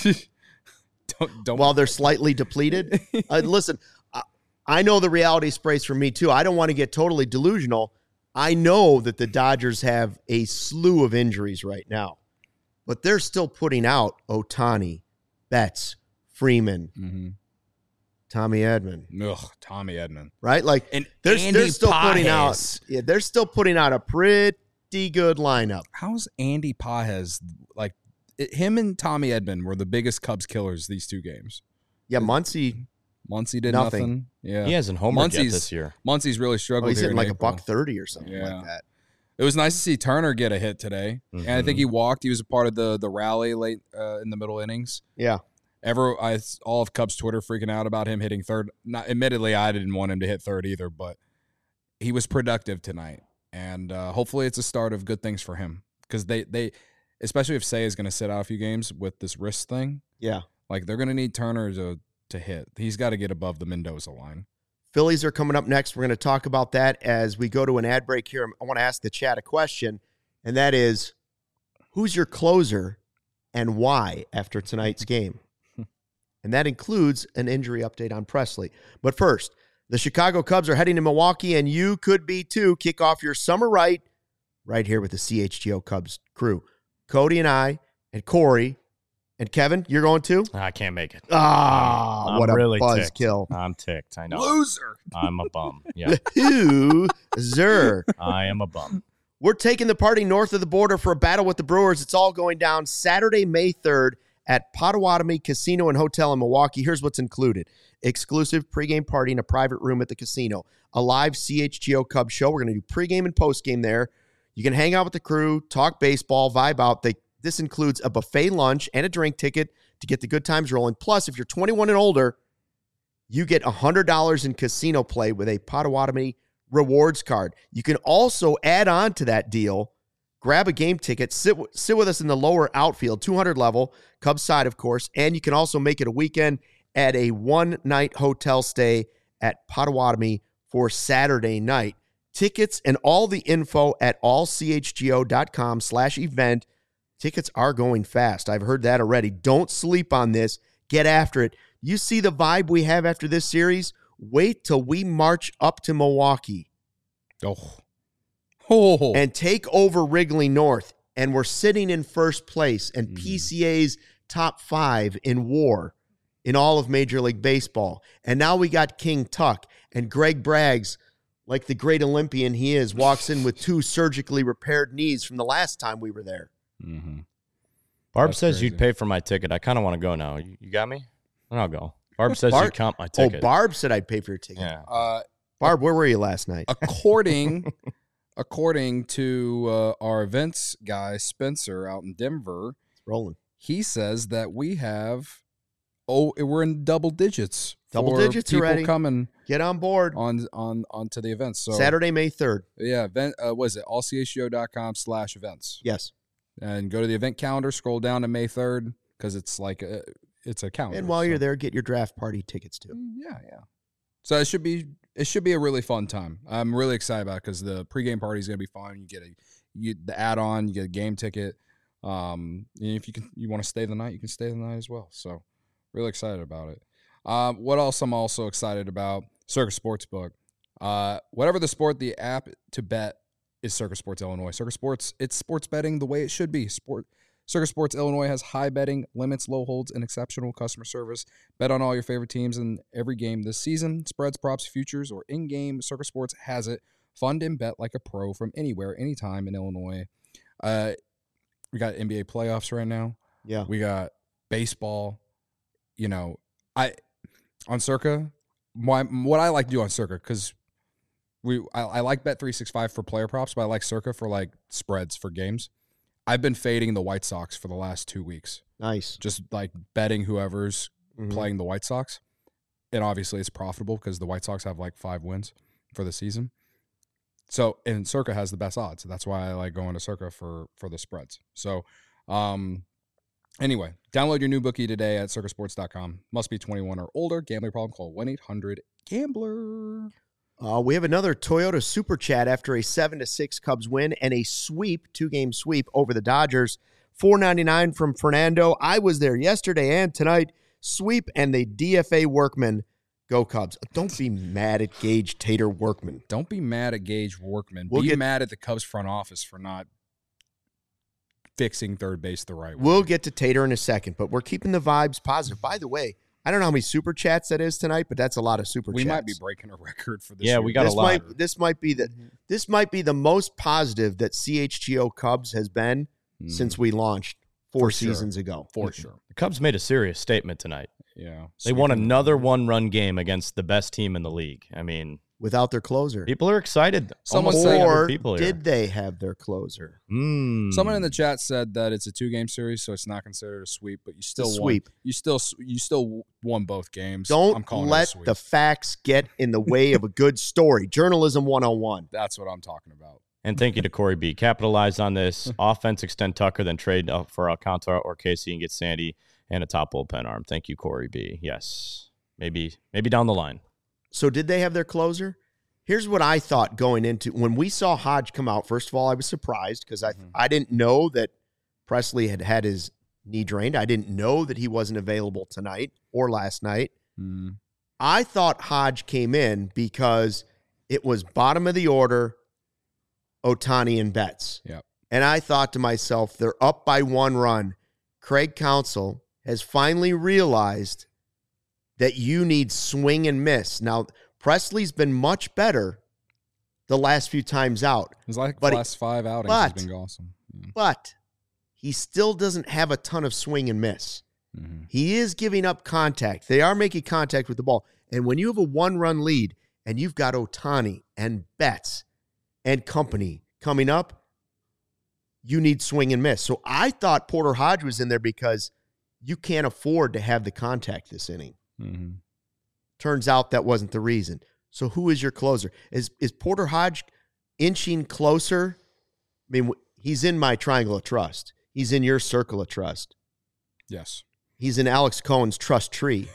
don't don't while they're slightly depleted? Uh, listen, I, I know the reality sprays for me too. I don't want to get totally delusional. I know that the Dodgers have a slew of injuries right now, but they're still putting out Ohtani, Betts, Freeman, mm-hmm. Tommy Edman, Ugh, Tommy Edman. right? Like And they're, Andy they're still putting out. Pages. Yeah, they're still putting out a pretty good lineup. How's Andy Pajes like? It, him and Tommy Edman were the biggest Cubs killers these two games. Yeah, Muncy. Muncy did Nothing. nothing. Yeah, He hasn't homered yet Muncie's- this year. Muncie's really Oh, struggled. he's here hitting in like a April. buck thirty or something Yeah. like that. It was nice to see Turner get a hit today, and I think he walked. He was a part of the the rally late uh, in the middle innings. Yeah. Ever, I all of Cubs Twitter freaking out about him hitting third. Not admittedly, I didn't want him to hit third either, but he was productive tonight, and uh, hopefully, it's a start of good things for him because they they, especially if Say is going to sit out a few games with this wrist thing, Yeah. like they're going to need Turner to to hit. He's got to get above the Mendoza line. Phillies are coming up next. We're going to talk about that as we go to an ad break here. I want to ask the chat a question, and that is, who's your closer and why after tonight's game? And that includes an injury update on Presley. But first, the Chicago Cubs are heading to Milwaukee, and you could be too. Kick off your summer right, right here with the C H G O Cubs crew. Cody and I and Corey and Kevin, you're going too? I can't make it. Ah, I'm what a really buzzkill. I'm ticked. I know. Loser. I'm a bum. Yeah, Loser. I am a bum. We're taking the party north of the border for a battle with the Brewers. It's all going down Saturday, May third at Potawatomi Casino and Hotel in Milwaukee. Here's what's included. Exclusive pregame party in a private room at the casino. A live C H G O Cubs show. We're going to do pregame and postgame there. You can hang out with the crew, talk baseball, vibe out. They, this includes a buffet lunch and a drink ticket to get the good times rolling. Plus, if you're twenty-one and older, you get one hundred dollars in casino play with a Potawatomi rewards card. You can also add on to that deal, grab a game ticket, sit, sit with us in the lower outfield, two hundred level, Cubs side, of course, and you can also make it a weekend at a one-night hotel stay at Potawatomi for Saturday night. Tickets and all the info at allchgo.com slash event. Tickets are going fast. I've heard that already. Don't sleep on this. Get after it. You see the vibe we have after this series? Wait till we march up to Milwaukee. Oh. Oh. And take over Wrigley North. And we're sitting in first place and mm. P C A's top five in WAR in all of Major League Baseball. And now we got King Tuck. And Greg Braggs, like the great Olympian he is, walks in with two surgically repaired knees from the last time we were there. Mm-hmm. Barb That's says crazy. You'd pay for my ticket. I kind of want to go now. You, you got me? I'll go. Barb says Barb? you'd count my Oh, ticket. Barb said I'd pay for your ticket. Yeah. Uh, Barb, where were you last night? according according to uh, our events guy, Spencer, out in Denver, It's rolling. he says that we have, oh, we're in double digits. Double for digits people already. coming Get on board. on on onto the events. So Saturday, May third. yeah, event, uh, what is it? all c h g o dot com slash events. Yes. And go to the event calendar, scroll down to May third, because it's like a, it's a calendar. And while so. you're there, get your draft party tickets too. Mm, Yeah, yeah. So it should be it should be a really fun time. I'm really excited about it because the pregame party is going to be fun. You get a you the add on, you get a game ticket. Um, and if you can you want to stay the night, you can stay the night as well. So really excited about it. Um, what else I'm also excited about? Circus Sportsbook. Uh, whatever the sport, the app to bet is Circus Sports Illinois. Circus Sports, it's sports betting the way it should be. Sport Circus Sports Illinois has high betting limits, low holds, and exceptional customer service. Bet on all your favorite teams in every game this season. Spreads, props, futures, or in-game, Circus Sports has it. Fund and bet like a pro from anywhere, anytime in Illinois. Uh, we got N B A playoffs right now. Yeah. We got baseball. You know, I on Circa, my, what I like to do on Circa, because we I, I like Bet three sixty-five for player props, but I like Circa for like spreads for games. I've been fading the White Sox for the last two weeks. Nice. Just like betting whoever's Mhm. playing the White Sox. And obviously it's profitable because the White Sox have like five wins for the season. So, and Circa has the best odds. That's why I like going to Circa for, for the spreads. So, um, anyway, download your new bookie today at circa sports dot com. Must be twenty-one or older. Gambling problem, call one eight hundred gambler. Uh, we have another Toyota Super Chat after a seven to six Cubs win and a sweep, two-game sweep over the Dodgers. four ninety-nine from Fernando. I was there yesterday and tonight. Sweep and the D F A Workman. Go Cubs. Don't be mad at Gage Tater Workman. Don't be mad at Gage Workman. We'll be get- mad at the Cubs front office for not fixing third base the right way. We'll get to Tater in a second, but we're keeping the vibes positive. By the way, I don't know how many Super Chats that is tonight, but that's a lot of Super we Chats. might be breaking a record for this. Yeah, year. we got a this lot. might this might be the this might be the most positive that C H G O Cubs has been Mm, since we launched four For sure. seasons ago. for sure. The Cubs made a serious statement tonight. Yeah, They won Sweeping- another one-run game against the best team in the league. I mean, Without their closer. people are excited. Someone Almost said- three hundred Or people did here. they have their closer? Mm. Someone in the chat said that it's a two-game series, so it's not considered a sweep. But you still won. sweep. You still you still won both games. I'm Don't calling it a let sweep. the facts get in the way of a good story. Journalism one oh one. That's what I'm talking about. And thank you to Corey B. Capitalize on this. Offense, extend Tucker, then trade uh, for Alcantara or Casey and get Sandy and a top bullpen arm. Thank you, Corey B. Yes. Maybe maybe down the line. So did they have their closer? Here's what I thought going into when we saw Hodge come out. First of all, I was surprised because I Mhm. I didn't know that Presley had had his knee drained. I didn't know that he wasn't available tonight or last night. Mm. I thought Hodge came in because it was bottom of the order, Ohtani and Betts. Yep. And I thought to myself, they're up by one run. Craig Counsell has finally realized that you need swing and miss. Now, Presley's been much better the last few times out, It's like But the he- last five outings but- has been awesome. Yeah. but he still doesn't have a ton of swing and miss. Mhm. He is giving up contact. They are making contact with the ball. And when you have a one-run lead and you've got Ohtani and Betts and company coming up, you need swing and miss. So I thought Porter Hodge was in there because you can't afford to have the contact this inning. Mhm. Turns out that wasn't the reason. So who is your closer? Is is Porter Hodge inching closer? I mean, he's in my triangle of trust. He's in your circle of trust. Yes. He's in Alex Cohen's trust tree.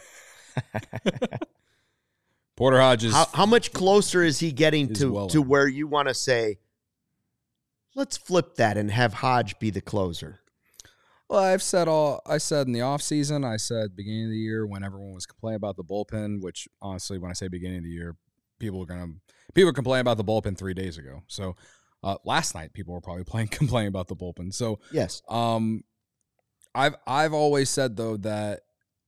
Porter Hodges. How, how much closer is he getting Is to, well to in. where you want to say, let's flip that and have Hodge be the closer? Well, I've said all I said in the offseason, I said beginning of the year when everyone was complaining about the bullpen, which honestly, when I say beginning of the year, people are gonna people complain about the bullpen three days ago. So uh, last night people were probably playing complaining about the bullpen. So Yes. um I've I've always said though that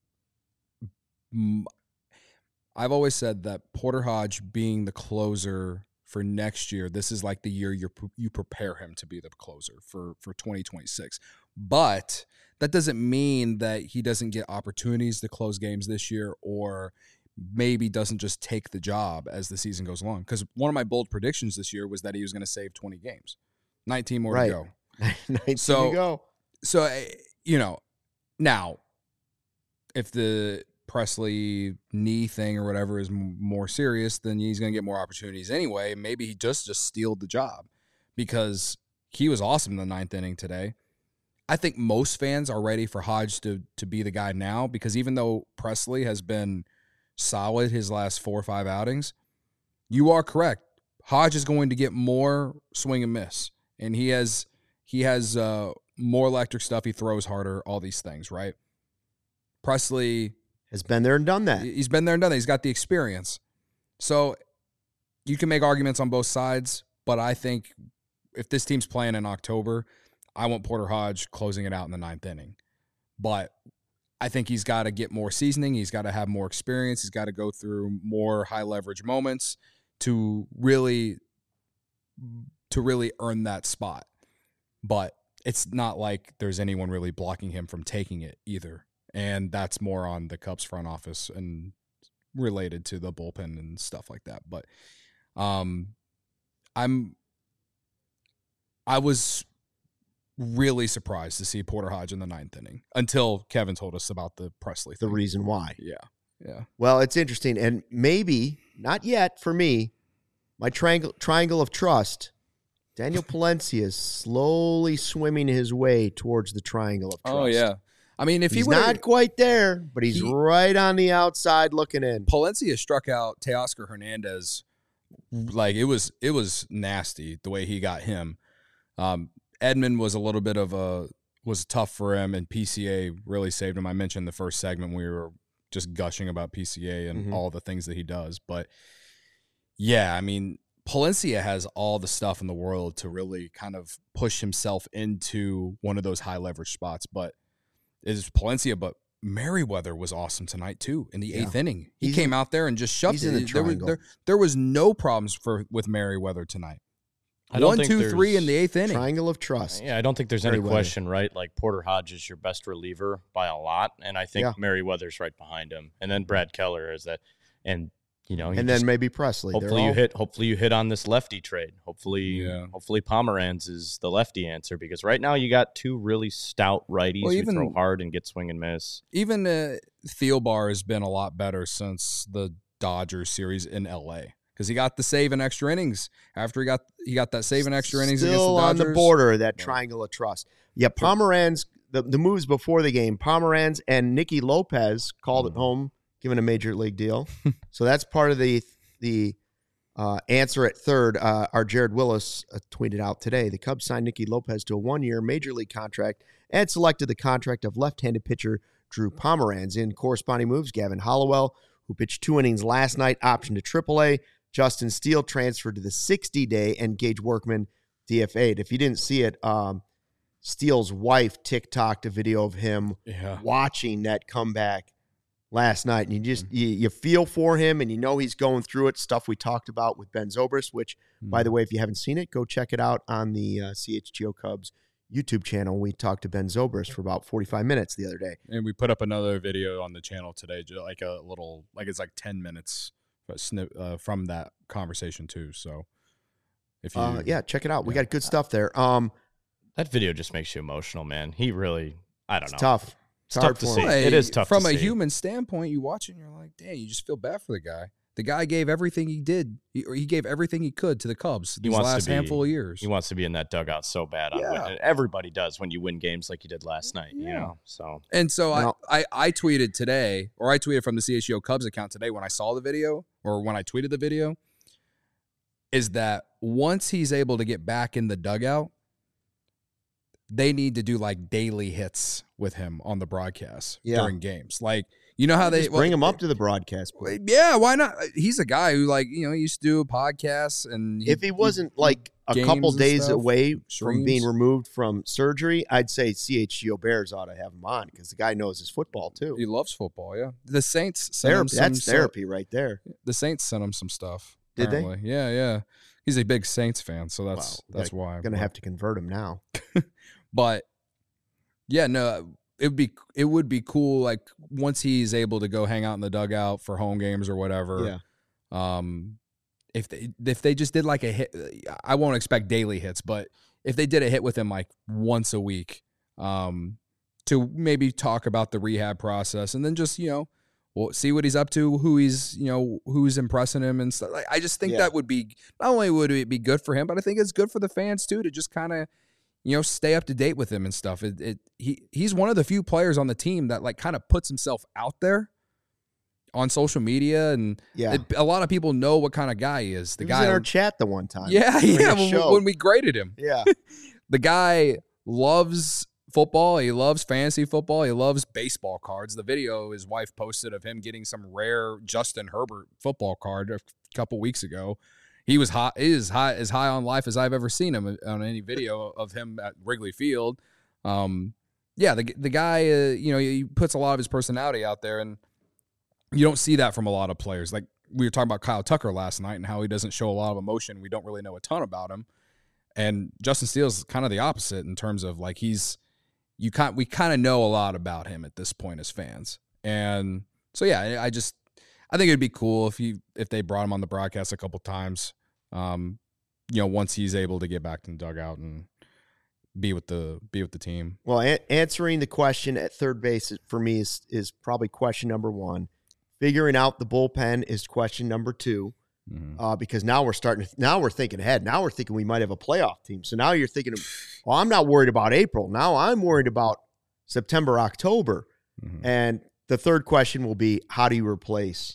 mm, I've always said that Porter Hodge being the closer for next year, this is like the year you you prepare him to be the closer for for twenty twenty-six. But that doesn't mean that he doesn't get opportunities to close games this year, or maybe doesn't just take the job as the season goes along. Because one of my bold predictions this year was that he was going to save twenty games, nineteen more Right. to go. nineteen So- to go. So, eh, you know, now, if the Presley knee thing or whatever is m- more serious, then he's going to get more opportunities anyway. Maybe he just just stealed the job because he was awesome in the ninth inning today. I think most fans are ready for Hodge to to be the guy now because even though Presley has been solid his last four or five outings, you are correct. Hodge is going to get more swing and miss, and he has he has uh, more electric stuff. He throws harder, all these things, right? Presley Has been there and done that. He's been there and done that. He's got the experience. So you can make arguments on both sides, but I think if this team's playing in October, I want Porter Hodge closing it out in the ninth inning. But I think he's got to get more seasoning. He's got to have more experience. He's got to go through more high leverage moments to really to really earn that spot. But it's not like there's anyone really blocking him from taking it either. And that's more on the Cubs front office and related to the bullpen and stuff like that. But um, I'm, I was really surprised to see Porter Hodge in the ninth inning until Kevin told us about the Presley The thing. reason why. Yeah, yeah. Well, it's interesting. And maybe, not yet for me, my triangle triangle of trust, Daniel Palencia is slowly swimming his way towards the triangle of trust. Oh, yeah. I mean, if He's he would not quite there, but he's He- right on the outside looking in. Palencia struck out Teoscar Hernandez, like it was it was nasty the way he got him. Um, Edman was a little bit of a was tough for him, and P C A really saved him. I mentioned the first segment we were just gushing about P C A and Mhm. all the things that he does, but yeah, I mean, Palencia has all the stuff in the world to really kind of push himself into one of those high leverage spots, but it is Palencia, but Merriweather was awesome tonight too in the Yeah. eighth inning. He He's came in- out there and just shoved he's it. in the there, was, triangle. there, there was no problems for with Merriweather tonight. I don't One, think two, three in there's- the eighth inning. Triangle of trust. Yeah, I don't think there's any Merriweather. question, right? Like Porter Hodge is your best reliever by a lot, and I think Yeah. Merriweather's right behind him, and then Brad Keller is that, and you know, you And just- then maybe Presley. They're hopefully you all- hit, hopefully you hit on this lefty trade. Hopefully, Yeah. hopefully Pomeranz is the lefty answer because right now you got two really stout righties Well, who even- throw hard and get swing and miss. Even uh, Thielbar has been a lot better since the Dodgers series in L A because he got the save in extra innings after he got he got that save in extra innings against the Still Dodgers. on the border of that Yeah. triangle of trust. Yeah, Pomeranz, the, the moves before the game, Pomeranz and Nicky Lopez called Mm-hmm. it home, given a major league deal. So that's part of the the uh, answer at third. Uh, our Jared Willis uh, tweeted out today, the Cubs signed Nicky Lopez to a one-year major league contract and selected the contract of left-handed pitcher Drew Pomeranz. In corresponding moves, Gavin Hollowell, who pitched two innings last night, optioned to triple A. Justin Steele transferred to the sixty-day, and Gage Workman D F A'd. If you didn't see it, um, Steele's wife TikToked a video of him Yeah. watching that comeback last night, and you just you, you feel for him, and you know he's going through it. Stuff we talked about with Ben Zobrist, which, by the way, if you haven't seen it, go check it out on the uh, C H G O Cubs YouTube channel. We talked to Ben Zobrist for about forty-five minutes the other day. And we put up another video on the channel today, ju- like a little, like it's like ten minutes but snip, uh, from that conversation too. So if you, Uh, yeah, check it out. We yeah. got good stuff there. Um, That video just makes you emotional, man. He really, I don't it's know. tough. It's hard tough to for see. him. Hey, It is tough from to a see. human standpoint. You watch it and you're like, dang, you just feel bad for the guy. The guy gave everything he did, he, or he gave everything he could to the Cubs He these wants to last be- handful of years. He wants to be in that dugout so bad. On Yeah. win. And everybody does when you win games like you did last night. You Yeah. know, so And so Now- I, I, I tweeted today, or I tweeted from the C H G O Cubs account today when I saw the video, or when I tweeted the video, is that once he's able to get back in the dugout, they need to do like daily hits with him on the broadcast Yeah. during games. Like, you know how they Just bring well, him up to the broadcast. Yeah, why not? He's a guy who, like, you know, he used to do podcasts, and If he wasn't he, like a games couple and days stuff, away from streams. being removed from surgery, I'd say C H G O Bears ought to have him on because the guy knows his football too. he loves football. Yeah, the Saints sent him Therapy, some that's stuff- therapy right there. The Saints sent him some stuff. Did they? apparently. Yeah, yeah. He's a big Saints fan, so that's Wow, that's why. I'm gonna but, have to convert him now. But yeah, no, it would be it would be cool. Like once he's able to go hang out in the dugout for home games or whatever. Yeah. Um, if they if they just did like a hit, I won't expect daily hits, but if they did a hit with him like once a week, um, to maybe talk about the rehab process and then just you know. Well, see what he's up to, who he's, you know, who's impressing him and stuff. Like, I just think Yeah. that would be, not only would it be good for him, but I think it's good for the fans too, to just kind of, you know, stay up to date with him and stuff. It, it he he's one of the few players on the team that like kind of puts himself out there on social media, and Yeah. it, a lot of people know what kind of guy he is. The He guy, was in our chat the one time. yeah, during yeah, our when, show. when we graded him. Yeah. The guy loves football. He loves fantasy football. He loves baseball cards. The video his wife posted of him getting some rare Justin Herbert football card a couple weeks ago. He was high, he is high as high on life as I've ever seen him on any video of him at Wrigley Field. Um, yeah, the the guy, uh, you know, he puts a lot of his personality out there, and you don't see that from a lot of players. Like we were talking about Kyle Tucker last night and how he doesn't show a lot of emotion. We don't really know a ton about him. And Justin Steele's is kind of the opposite in terms of like he's you kind we kind of know a lot about him at this point as fans. And so yeah, I, I just I think it'd be cool if he if they brought him on the broadcast a couple times. Um, you know, once he's able to get back in the dugout and be with the be with the team. Well, a- answering the question at third base for me is is probably question number one. Figuring out the bullpen is question number two. Mm-hmm. Uh, because now we're starting. To, now we're thinking ahead. Now we're thinking we might have a playoff team. So now you're thinking, well, I'm not worried about April. Now I'm worried about September, October. Mm-hmm. And the third question will be, how do you replace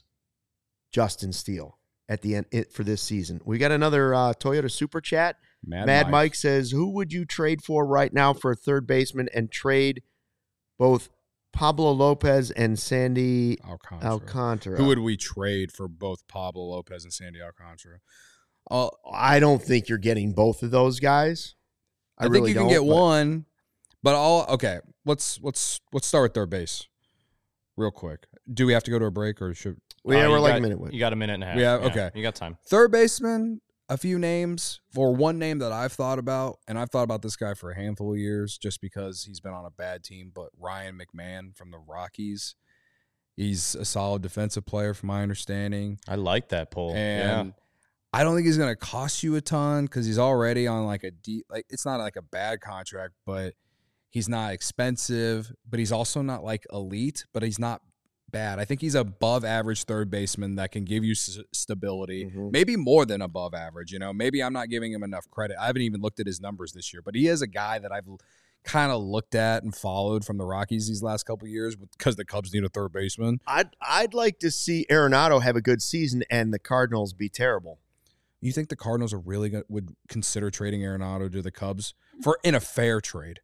Justin Steele at the end it, for this season? We got another uh, Toyota Super Chat. Mad, Mad Mike. Mike says, who would you trade for right now for a third baseman and trade both Pablo Lopez and Sandy Alcantara. Alcantara? Who would we trade for both Pablo Lopez and Sandy Alcantara? Uh, I don't think you're getting both of those guys. I, I, think really you can don't, get but- one, but all okay. Let's let's let's start with third base, real quick. Do we have to go to a break or should Well, yeah, Uh, we're you like got- a minute with. You got a minute and a half. We have- okay. You got time. third baseman? A few names, or one name that I've thought about, and I've thought about this guy for a handful of years, just because he's been on a bad team. But Ryan McMahon from the Rockies, he's a solid defensive player, from my understanding. I like that poll. And yeah. I don't think he's going to cost you a ton because he's already on like a deep, like it's not like a bad contract, but he's not expensive, but he's also not like elite, but he's not bad. I think he's above average third baseman that can give you s- stability, Mhm. maybe more than above average. You know, maybe I'm not giving him enough credit. I haven't even looked at his numbers this year, but he is a guy that I've kind of looked at and followed from the Rockies these last couple of years because the Cubs need a third baseman. I'd I'd like to see Arenado have a good season and the Cardinals be terrible. You think the Cardinals are really gonna, would consider trading Arenado to the Cubs for in a fair trade?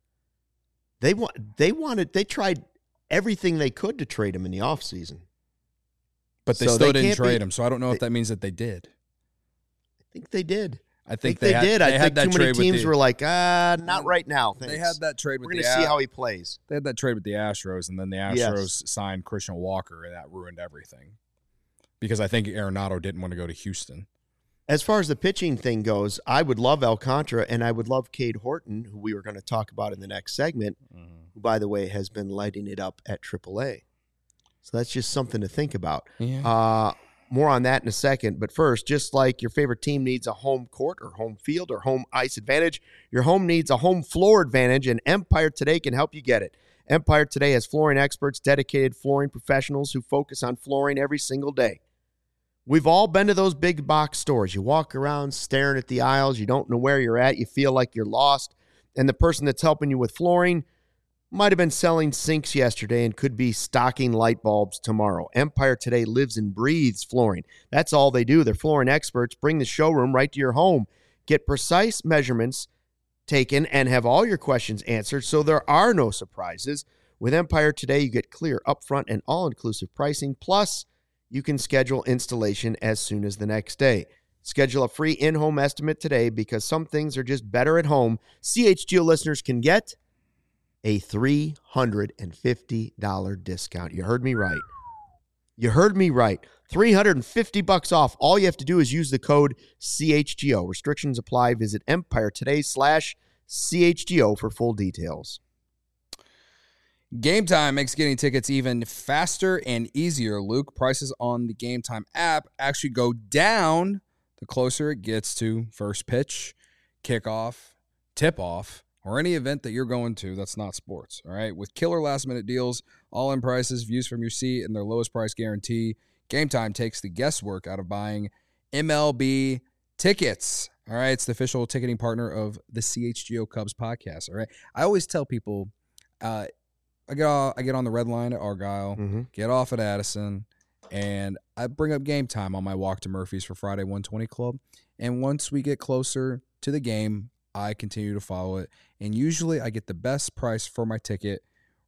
They want they wanted they tried everything they could to trade him in the offseason. But they So still they didn't can't trade be- him, so I don't know if they- that means that they did. I think they did. I I think, think they, had, did. They I had think that too many trade with teams the- were like, ah, not right now. Thanks. They had that trade with We're the going to see A- how he plays. They had that trade with the Astros, and then the Astros Yes. signed Christian Walker, and that ruined everything. Because I think Arenado didn't want to go to Houston. As far as the pitching thing goes, I would love Alcantara and I would love Cade Horton, who we were going to talk about in the next segment, who, by the way, has been lighting it up at triple A. So that's just something to think about. Yeah. Uh, more on that in a second. But first, just like your favorite team needs a home court or home field or home ice advantage, your home needs a home floor advantage, and Empire Today can help you get it. Empire Today has flooring experts, dedicated flooring professionals who focus on flooring every single day. We've all been to those big box stores. You walk around staring at the aisles. You don't know where you're at. You feel like you're lost. And the person that's helping you with flooring might have been selling sinks yesterday and could be stocking light bulbs tomorrow. Empire Today lives and breathes flooring. That's all they do. They're flooring experts. Bring the showroom right to your home. Get precise measurements taken and have all your questions answered, so there are no surprises. With Empire Today, you get clear, upfront, and all-inclusive pricing. Plus, you can schedule installation as soon as the next day. Schedule a free in-home estimate today because some things are just better at home. C H G O listeners can get a three hundred fifty dollars discount. You heard me right. You heard me right. three hundred fifty bucks off. All you have to do is use the code C H G O. Restrictions apply. Visit Empire Today slash C H G O for full details. Game Time makes getting tickets even faster and easier, Luke. Prices on the Game Time app actually go down the closer it gets to first pitch, kickoff, tip-off, or any event that you're going to that's not sports, all right? With killer last-minute deals, all-in prices, views from your seat, and their lowest price guarantee, Game Time takes the guesswork out of buying M L B tickets, all right? It's the official ticketing partner of the C H G O Cubs podcast, all right? I always tell people, uh, I get off, I get on the red line at Argyle, Mm-hmm. get off at Addison, and I bring up Game Time on my walk to Murphy's for Friday one twenty Club. And once we get closer to the game, I continue to follow it. And usually I get the best price for my ticket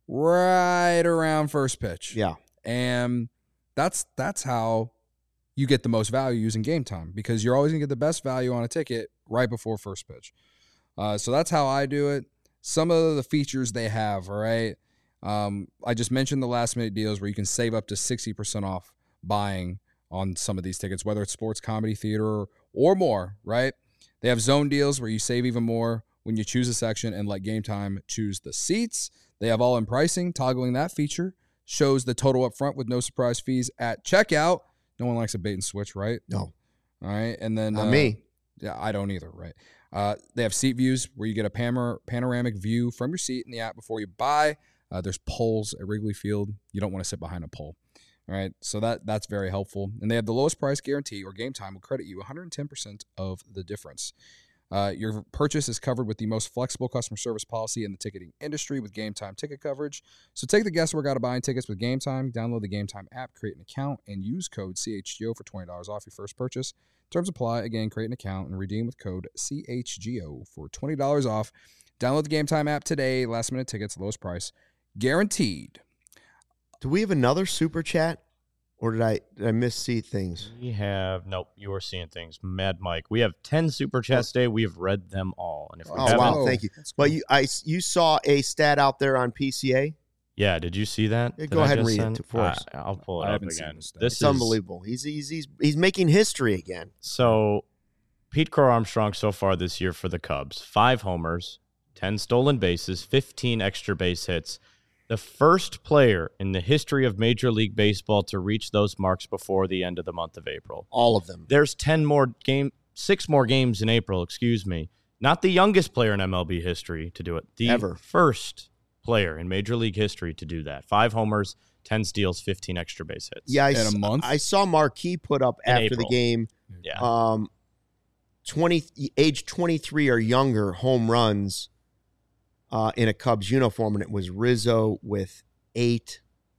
right around first pitch. Yeah. And that's that's how you get the most value using Game Time, because you're always going to get the best value on a ticket right before first pitch. Uh, so that's how I do it. Some of the features they have, all right? Um, I just mentioned the last minute deals where you can save up to sixty percent off buying on some of these tickets, whether it's sports, comedy, theater, or, or more, right? They have zone deals where you save even more when you choose a section and let Game Time choose the seats. They have all-in pricing. Toggling that feature shows the total up front with no surprise fees at checkout. No one likes a bait and switch, right? No. All right, and then Not uh, me. Yeah, I don't either, right? Uh, they have seat views where you get a panor- panoramic view from your seat in the app before you buy. Uh, there's poles at Wrigley Field. You don't want to sit behind a pole. All right, so that that's very helpful. And they have the lowest price guarantee, or Game Time will credit you one hundred ten percent of the difference. Uh, your purchase is covered with the most flexible customer service policy in the ticketing industry with Game Time ticket coverage. So take the guesswork out of buying tickets with Game Time. Download the Game Time app, create an account, and use code C H G O for twenty dollars off your first purchase. Terms apply. Again, create an account and redeem with code C H G O for twenty dollars off. Download the Game Time app today. Last minute tickets, lowest price guaranteed. Do we have another super chat, or did I did I miss-see things? We have, nope, you are seeing things. Mad Mike. We have ten super chats today. We have read them all. And if we Oh, haven't, wow, thank you. But you I, you saw a stat out there on P C A? yeah, did you see that? Yeah, that go I ahead and just read it sent? for us. I, I'll pull it I up haven't seen again. this stat. This It's is unbelievable. He's, he's, he's, he's making history again. So, Pete Crow Armstrong so far this year for the Cubs, five homers, ten stolen bases, fifteen extra base hits. The first player in the history of Major League Baseball to reach those marks before the end of the month of April. All of them. There's ten more game, six more games in April, excuse me. Not the youngest player in M L B history to do it. The Ever. first player in Major League history to do that. Five homers, ten steals, fifteen extra base hits. Yeah, I, In a s- month? I saw Marquis put up In after April. the game, Yeah. um, twenty age twenty-three or younger home runs uh, in a Cubs uniform, and it was Rizzo with eight,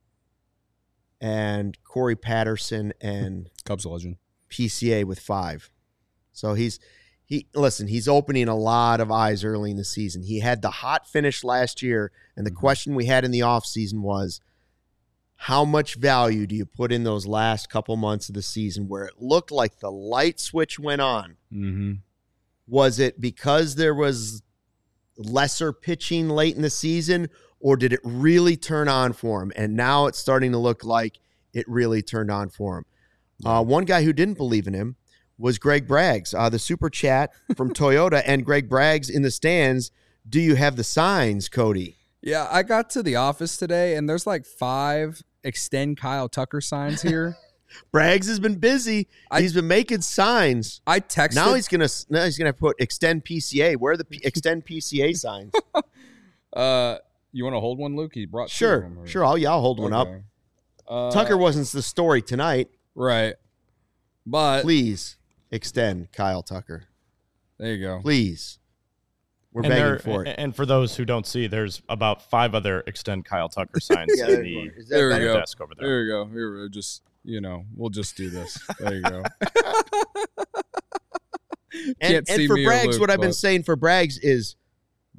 and Corey Patterson and Cubs legend. P C A with five. So he's he listen, he's opening a lot of eyes early in the season. He had the hot finish last year, and the question we had in the offseason was, how much value do you put in those last couple months of the season where it looked like the light switch went on? Mm-hmm. Was it because there was lesser pitching late in the season, or did it really turn on for him? And now it's starting to look like it really turned on for him. Uh, one guy who didn't believe in him was Greg Braggs, uh, the super chat from Toyota, and Greg Braggs in the stands. Do you have the signs, Cody? Yeah, I got to the office today, and there's like five extend Kyle Tucker signs here. Braggs has been busy. I- He's been making signs. I texted. Now he's gonna now he's gonna put extend P C A. Where are the P- extend P C A signs? uh, you want to hold one, Luke? He brought two of Sure, them, or- sure. I'll yeah, I'll hold one up. Okay. Uh, Tucker wasn't the story tonight. right, but Please extend Kyle Tucker. there you go. Please. We're and, begging there- for it. and for those who don't see, there's about five other extend Kyle Tucker signs Yeah, in there the you go. Is that There we better? go. desk over there. There you go. Here we just you know we'll just do this. There you go. And, Can't see and for me or Braggs, Luke, what I've been but- saying for Braggs is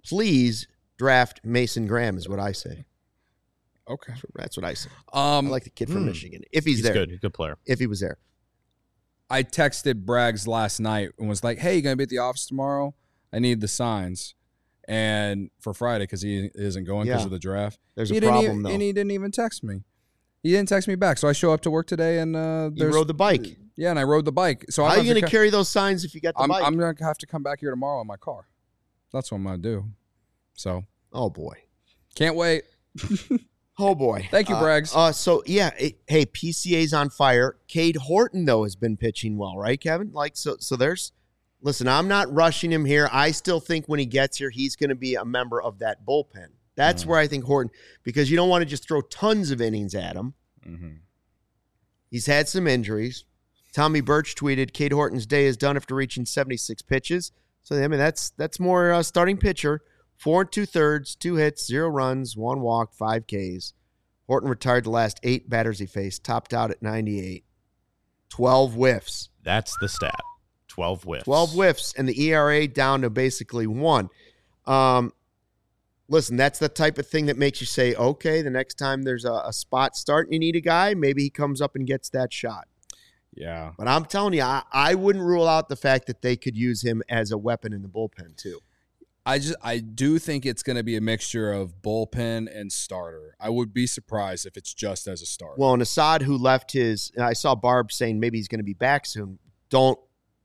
please draft Mason Graham is what I say. Okay. That's what I say. Um, I like the kid from hmm. Michigan. If he's, He's there. good. Good player. If he was there. I texted Braggs last night and was like, hey, you going to be at the office tomorrow? I need the signs. And for Friday, because he isn't going because Yeah. of the draft. There's he a didn't problem, even, though. And he didn't even text me. He didn't text me back. So I show up to work today and uh, You there's rode the bike. Yeah, and I rode the bike. So How I'm are you going to co- carry those signs if you got the I'm, bike? I'm going to have to come back here tomorrow in my car. That's what I'm going to do. So oh, boy. can't wait. Oh, boy. Thank you, Uh, Braggs. Uh, so, yeah. It, hey, P C A's on fire. Cade Horton, though, has been pitching well, right, Kevin? Like, so, so there's – listen, I'm not rushing him here. I still think when he gets here, he's going to be a member of that bullpen. That's Mm. where I think Horton – because you don't want to just throw tons of innings at him. Mm-hmm. He's had some injuries. Tommy Birch tweeted, Cade Horton's day is done after reaching seventy-six pitches. So, I mean, that's that's more uh, starting pitcher. Four and two-thirds, two hits, zero runs, one walk, five Ks. Horton retired the last eight batters he faced, topped out at ninety-eight. twelve whiffs. That's the stat. twelve whiffs. twelve whiffs, and the E R A down to basically one. Um, listen, that's the type of thing that makes you say, okay, the next time there's a, a spot start and you need a guy, maybe he comes up and gets that shot. Yeah. But I'm telling you, I, I wouldn't rule out the fact that they could use him as a weapon in the bullpen, too. I just I do think it's going to be a mixture of bullpen and starter. I would be surprised if it's just as a starter. Well, and Assad, who left his, and I saw Barb saying maybe he's going to be back soon. Don't,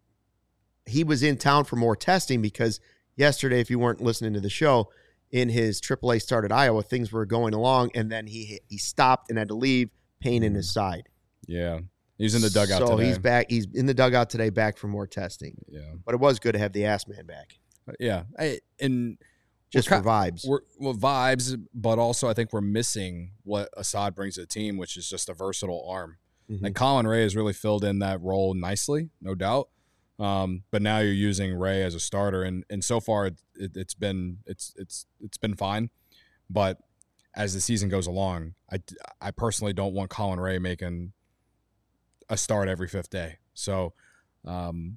he was in town for more testing because yesterday, if you weren't listening to the show, in his triple A start at Iowa, things were going along, and then he he stopped and had to leave, pain in his side. Yeah. He's in the dugout so today. he's back. He's in the dugout today, back for more testing. Yeah. But it was good to have the ass man back. Yeah. I, and Just we're for ki- vibes. We're, well, vibes, but also I think we're missing what Assad brings to the team, which is just a versatile arm. Mhm. Like Colin Ray has really filled in that role nicely, no doubt. Um, but now you're using Ray as a starter, and and so far it, it, it's been it's it's it's been fine. But as the season goes along, I, I personally don't want Colin Ray making a start every fifth day. So, um,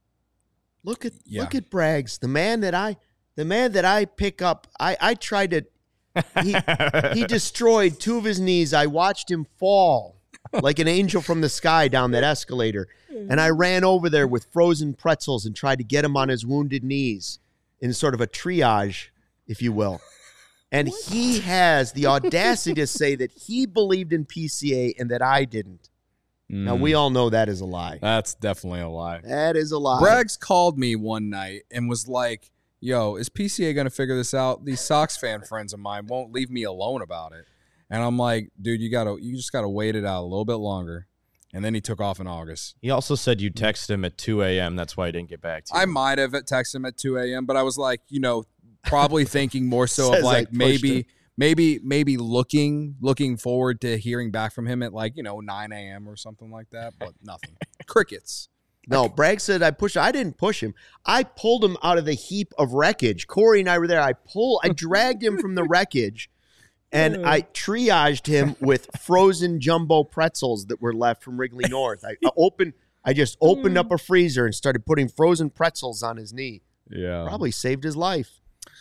Look at Yeah. look at Braggs, the man that I the man that I pick up. I I tried to. He he destroyed two of his knees. I watched him fall like an angel from the sky down that escalator, and I ran over there with frozen pretzels and tried to get him on his wounded knees in sort of a triage, if you will. And he has the audacity to say that he believed in P C A and that I didn't. Now, we all know that is a lie. That's definitely a lie. That is a lie. Braggs called me one night and was like, yo, is P C A going to figure this out? These Sox fan friends of mine won't leave me alone about it. And I'm like, dude, you gotta, you just got to wait it out a little bit longer. And then he took off in August. He also said you texted him at two a.m. That's why he didn't get back to you. I might have texted him at two a.m., but I was like, you know, probably thinking more so Says of I like pushed maybe, him. maybe, maybe looking, looking forward to hearing back from him at like, you know, nine a.m. or something like that. But nothing. Crickets. No, Bragg said I pushed. I didn't push him. I pulled him out of the heap of wreckage. Corey and I were there. I pull. I dragged him from the wreckage, and I triaged him with frozen jumbo pretzels that were left from Wrigley North. I, I opened. I just opened up a freezer and started putting frozen pretzels on his knee. Yeah. Probably saved his life.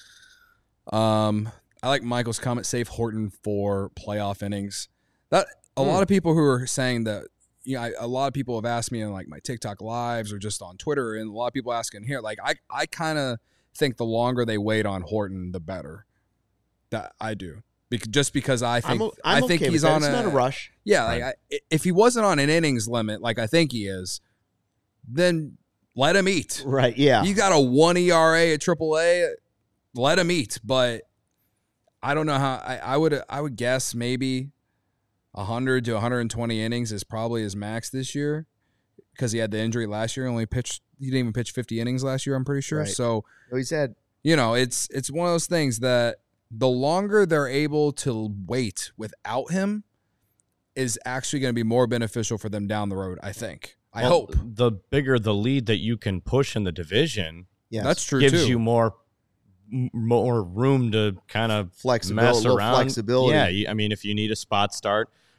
Um, I like Michael's comment, save Horton for playoff innings. That a Hmm. lot of people who are saying that, you know, I, a lot of people have asked me in like my TikTok lives or just on Twitter, and a lot of people asking here. Like, I, I kind of think the longer they wait on Horton, the better. That I do, because just because I think I'm, o- I'm I think okay he's with that. on It's a not a rush. yeah. Like I, if he wasn't on an innings limit, like I think he is, then let him eat. Right. Yeah. You got a one E R A at triple A, let him eat. But I don't know how I, I would I would guess maybe one hundred to one hundred twenty innings is probably his max this year because he had the injury last year. Only pitched he didn't even pitch fifty innings last year, I'm pretty sure. Right. So, he said. you know, it's it's one of those things that the longer they're able to wait without him is actually going to be more beneficial for them down the road, I think. I Well, hope. the bigger the lead that you can push in the division Yes. That's true gives too. you more m- more room to kind of Flexibility. mess A little around. flexibility. Yeah, you- I mean, if you need a spot start,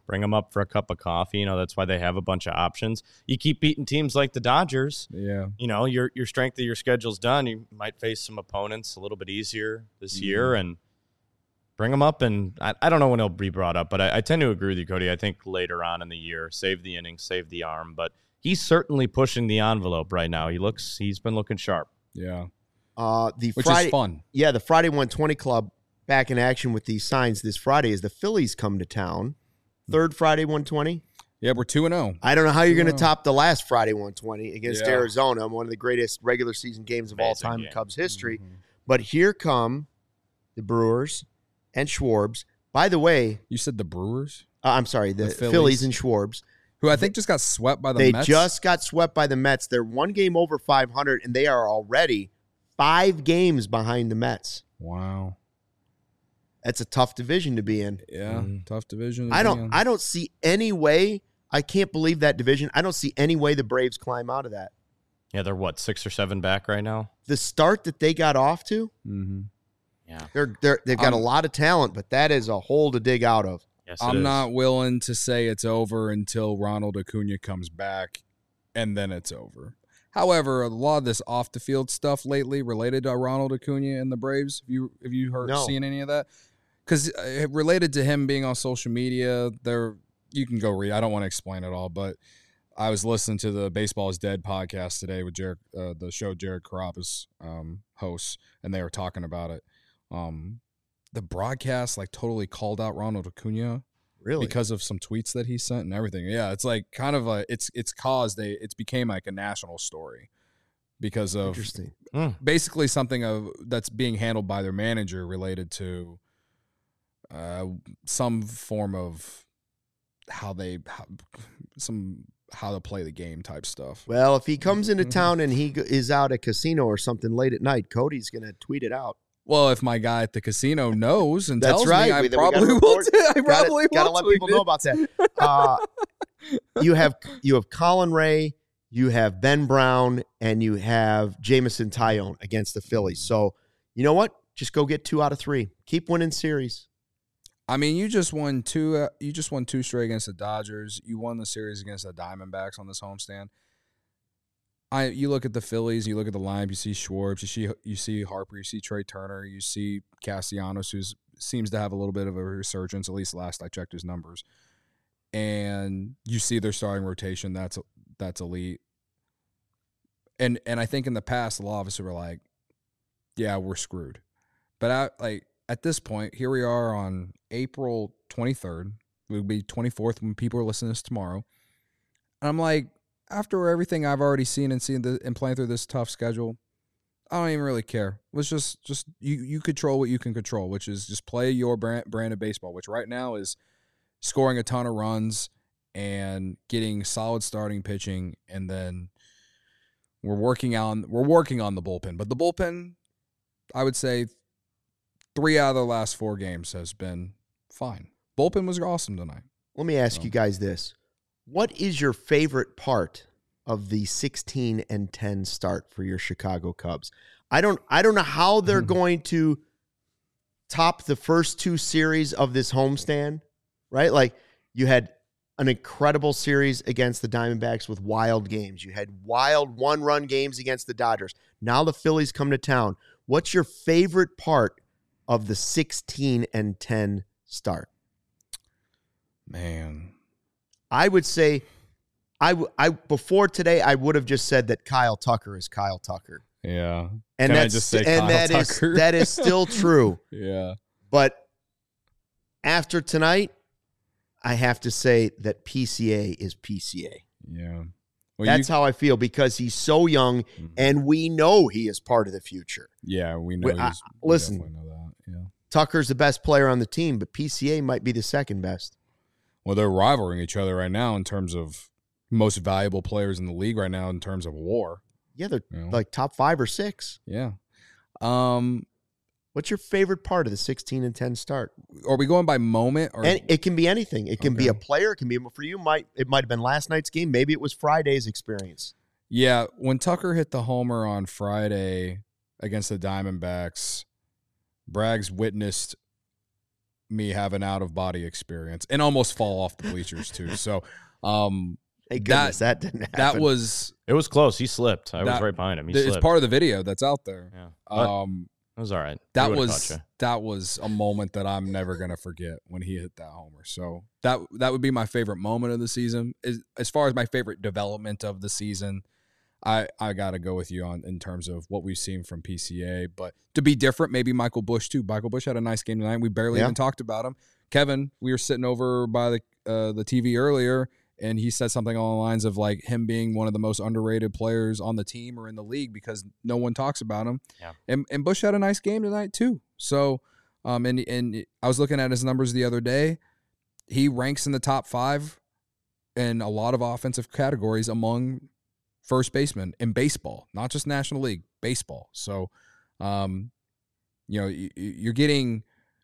Bring them up for a cup of coffee. You know, that's why they have a bunch of options. You keep beating teams like the Dodgers. Yeah. You know, your your strength of your schedule's done. You might face some opponents a little bit easier this Mm. year, and bring them up. And I, I don't know when he'll be brought up, but I, I tend to agree with you, Cody. I think later on in the year, save the inning, save the arm. But he's certainly pushing the envelope right now. He looks, he's been looking sharp. Yeah. Uh, the Which Friday, is fun. Yeah, the Friday one twenty Club back in action with these signs this Friday as the Phillies come to town. Third Friday one twenty. Yeah, we're two and oh. I don't know how you're going to Yeah. top the last Friday one twenty against Yeah. Arizona, one of the greatest regular season games of all Amazing time game. in Cubs history. Mhm. But here come the Brewers and Schwarbs. By the way, You said the Brewers, uh, I'm sorry, the, The Phillies. Phillies. and Schwarbs. who I think just got swept by the They Mets. just got swept by the Mets. They're one game over five hundred, and they are already five games behind the Mets. Wow. That's a tough division to be in. Yeah, Mhm. tough division. to I be don't in. I don't see any way. I can't believe that division. I don't see any way the Braves climb out of that. Yeah, they're what, six or seven back right now? The start that they got off to, Mhm. Yeah. they're they're they've got I'm- a lot of talent, but that is a hole to dig out of. Yes, it I'm is. not willing to say it's over until Ronald Acuna comes back, and then it's over. However, a lot of this off the field stuff lately related to Ronald Acuna and the Braves. Have you have you heard No. seen any of that? Because uh, related to him being on social media, there you can go read. I don't want to explain it all, but I was listening to the Baseball is Dead podcast today with Jared, uh, the show Jared Carrabis um, hosts, and they were talking about it. Um, the broadcast like totally called out Ronald Acuna Really? because of some tweets that he sent and everything. Yeah, it's like kind of a it's it's caused a it's became like a national story because of Interesting. basically something of that's being handled by their manager related to uh, some form of how they how, some how to play the game type stuff. Well, if he comes into Mhm. town and he go- is out at casino or something late at night, Cody's going to tweet it out. Well, if my guy at the casino knows and That's tells right. me, I We- then we gotta probably will. report- t- I probably Got to will let tweet people it. know about that. Uh, you have you have Colin Ray, you have Ben Brown, and you have Jameson Tyone against the Phillies. So you know what? Just go get two out of three. Keep winning series. I mean, you just won two. Uh, you just won two straight against the Dodgers. You won the series against the Diamondbacks on this homestand. I. You look at the Phillies. You look at the lineup. You see Schwartz. You see. You see Harper. You see Trey Turner. You see Castellanos, who seems to have a little bit of a resurgence. At least last I checked his numbers. And you see their starting rotation. That's that's elite. And and I think in the past, a lot of us were like, "Yeah, we're screwed." But I like. At this point, here we are on April twenty-third. It will be twenty-fourth when people are listening to this tomorrow. And I'm like, after everything I've already seen and seen the, and playing through this tough schedule, I don't even really care. Let's just, just you, you control what you can control, which is just play your brand, brand of baseball, which right now is scoring a ton of runs and getting solid starting pitching. And then we're working on, we're working on the bullpen. But the bullpen, I would say, three out of the last four games has been fine. Bullpen was awesome tonight. Let me ask So. you guys this. What is your favorite part of the sixteen and ten start for your Chicago Cubs? I don't I don't know how they're going to top the first two series of this homestand, right? Like you had an incredible series against the Diamondbacks with wild games. You had wild one-run games against the Dodgers. Now the Phillies come to town. What's your favorite part of the sixteen and ten start? Man. I would say, I, w- I before today, I would have just said that Kyle Tucker is Kyle Tucker, Yeah. and Can I that's just say and Kyle that is Tucker? that is still true. Yeah. But after tonight, I have to say that P C A is P C A. Yeah. Well, That's you, how I feel because he's so young, Mhm. and we know he is part of the future. yeah, we know. Wait, I- he's- we listen. definitely know that. Yeah. Tucker's the best player on the team, but P C A might be the second best. Well, they're rivaling each other right now in terms of most valuable players in the league right now in terms of WAR. Yeah, they're You know? like top five or six. Yeah. Um. What's your favorite part of the sixteen and ten start? Are we going by moment or? And it can be anything. It can be a Okay. player. It can be for you. Might it might have been last night's game. Maybe it was Friday's experience. Yeah, when Tucker hit the homer on Friday against the Diamondbacks, Braggs witnessed me have an out of body experience and almost fall off the bleachers too. So, um, Thank goodness that, that didn't happen. That was it was close. He slipped. I that, was right behind him. He it's slipped. part of the video that's out there. Yeah. Um, it was all right. That was that was a moment that I'm never gonna forget when he hit that homer. So that that would be my favorite moment of the season. As, as far as my favorite development of the season, I, I got to go with you on in terms of what we've seen from P C A. But to be different, maybe Michael Busch too. Michael Busch had a nice game tonight. We barely yeah. even talked about him. Kevin, we were sitting over by the uh, the T V earlier, and he said something along the lines of like him being one of the most underrated players on the team or in the league because no one talks about him. Yeah. And and Busch had a nice game tonight too. So, um, and and I was looking at his numbers the other day. He ranks in the top five in a lot of offensive categories among first baseman in baseball, not just National League, baseball. So, um, you know, you're getting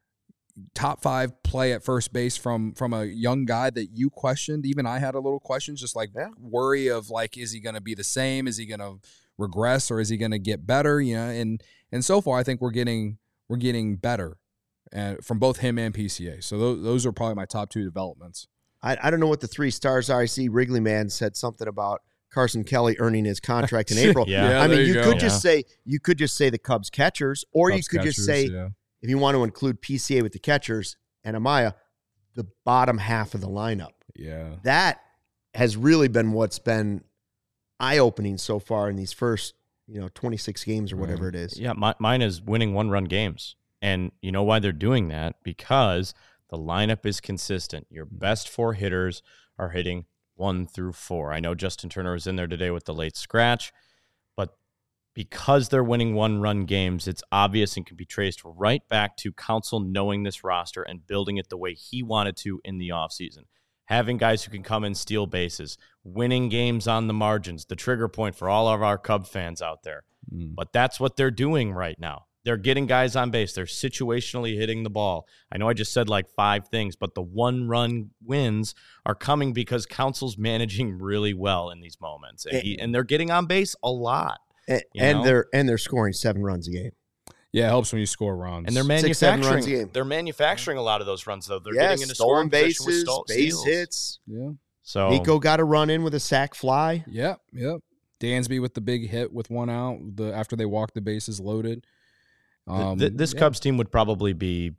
top five play at first base from from a young guy that you questioned. Even I had a little questions, just like yeah. worry of like, is he going to be the same? Is he going to regress or is he going to get better? You know, and and so far I think we're getting we're getting better uh, from both him and P C A. So those, those are probably my top two developments. I, I don't know what the three stars are. I see Wrigley Man said something about Carson Kelly earning his contract in April. yeah. yeah, I mean, you, you could yeah. just say you could just say the Cubs catchers, or Cubs you could catchers, just say yeah. if you want to include P C A with the catchers and Amaya, the bottom half of the lineup. Yeah, that has really been what's been eye-opening so far in these first, you know, twenty-six games or whatever it is. Yeah, my, mine is winning one-run games, and you know why they're doing that? Because the lineup is consistent. Your best four hitters are hitting one through four. I know Justin Turner was in there today with the late scratch, but because they're winning one-run games, it's obvious and can be traced right back to Counsell knowing this roster and building it the way he wanted to in the offseason. Having guys who can come and steal bases, winning games on the margins, the trigger point for all of our Cub fans out there. Mm. But that's what they're doing right now. They're getting guys on base. They're situationally hitting the ball. I know I just said like five things, but the one-run wins are coming because Counsell's managing really well in these moments, and, he, and they're getting on base a lot. And, and they're and they're scoring seven runs a game. Yeah, it helps when you score runs. And they're manufacturing. Six, they're manufacturing a lot of those runs, though. They're yeah, getting into stolen scoring bases, with sto- base steals. hits. Yeah. So Nico got a run in with a sac fly. Yep, yep. Dansby with the big hit with one out. The after they walked the bases loaded. Um, the, this yeah. Cubs team would probably be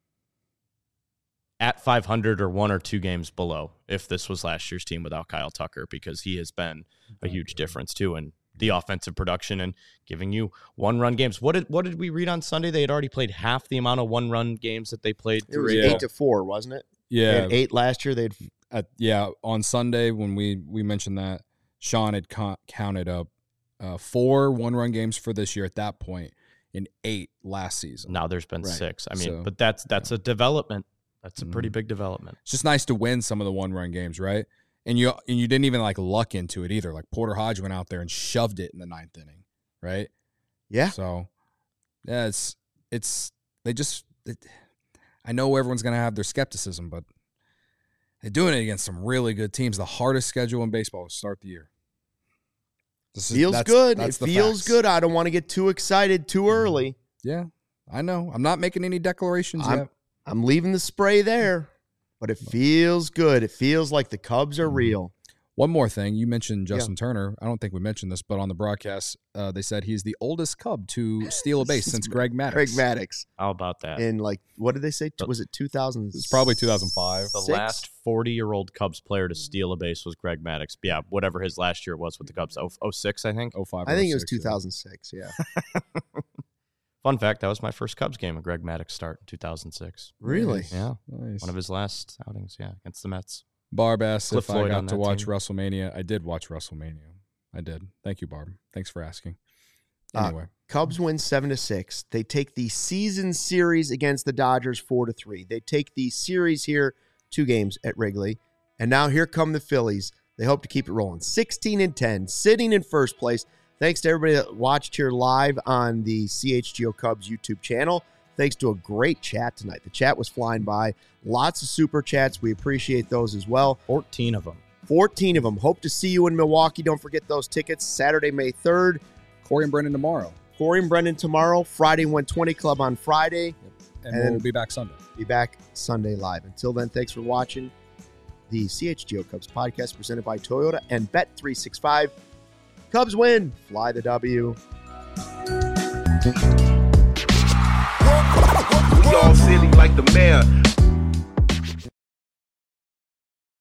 at five hundred or one or two games below if this was last year's team without Kyle Tucker, because he has been a huge difference too in the offensive production and giving you one-run games. What did what did we read on Sunday? They had already played half the amount of one-run games that they played. It was yeah. eight to four, wasn't it? Yeah, they had eight last year. They'd uh, yeah on Sunday when we we mentioned that Sean had co- counted up uh, four one-run games for this year at that point. In eight last season. Now there's been right. six. I mean, so, but that's that's yeah. a development. That's a mm-hmm. pretty big development. It's just nice to win some of the one-run games, right? And you and you didn't even like luck into it either. Like Porter Hodge went out there and shoved it in the ninth inning, right? Yeah. So yeah, it's it's they just. It, I know everyone's gonna have their skepticism, but they're doing it against some really good teams. The hardest schedule in baseball to start the year. This feels is, that's, good. That's it feels facts. good. I don't want to get too excited too early. Yeah, I know. I'm not making any declarations I'm, yet. I'm leaving the spray there, but it feels good. It feels like the Cubs are real. One more thing. You mentioned Justin yeah. Turner. I don't think we mentioned this, but on the broadcast, uh, they said he's the oldest Cub to steal a base since Greg Maddux. Greg Maddux. How about that? In like, what did they say? Was it two thousand? It's probably two thousand five. The last forty-year-old Cubs player to steal a base was Greg Maddux. Yeah, whatever his last year was with the Cubs. oh six, I think? oh five. I think it was two thousand six, yeah. yeah. Fun fact, that was my first Cubs game, a Greg Maddux start in two thousand six. Really? Yeah. Nice. One of his last outings, yeah, against the Mets. Barb asked Cliff if Floyd I got to watch team. WrestleMania. I did watch WrestleMania. I did. Thank you, Barb. Thanks for asking. Anyway. Uh, Cubs win seven to six. They take the season series against the Dodgers four to three. They take the series here, two games at Wrigley. And now here come the Phillies. They hope to keep it rolling. sixteen and ten, sitting in first place. Thanks to everybody that watched here live on the C H G O Cubs YouTube channel. Thanks to a great chat tonight. The chat was flying by. Lots of super chats. We appreciate those as well. fourteen of them. fourteen of them. Hope to see you in Milwaukee. Don't forget those tickets. Saturday, May third. Corey and Brendan tomorrow. Corey and Brendan tomorrow. Friday one twenty Club on Friday. Yep. and, And we'll be back Sunday. Be back Sunday live. Until then, thanks for watching the C H G O Cubs podcast presented by Toyota and Bet three sixty-five. Cubs win. Fly the W. We all silly like the mayor.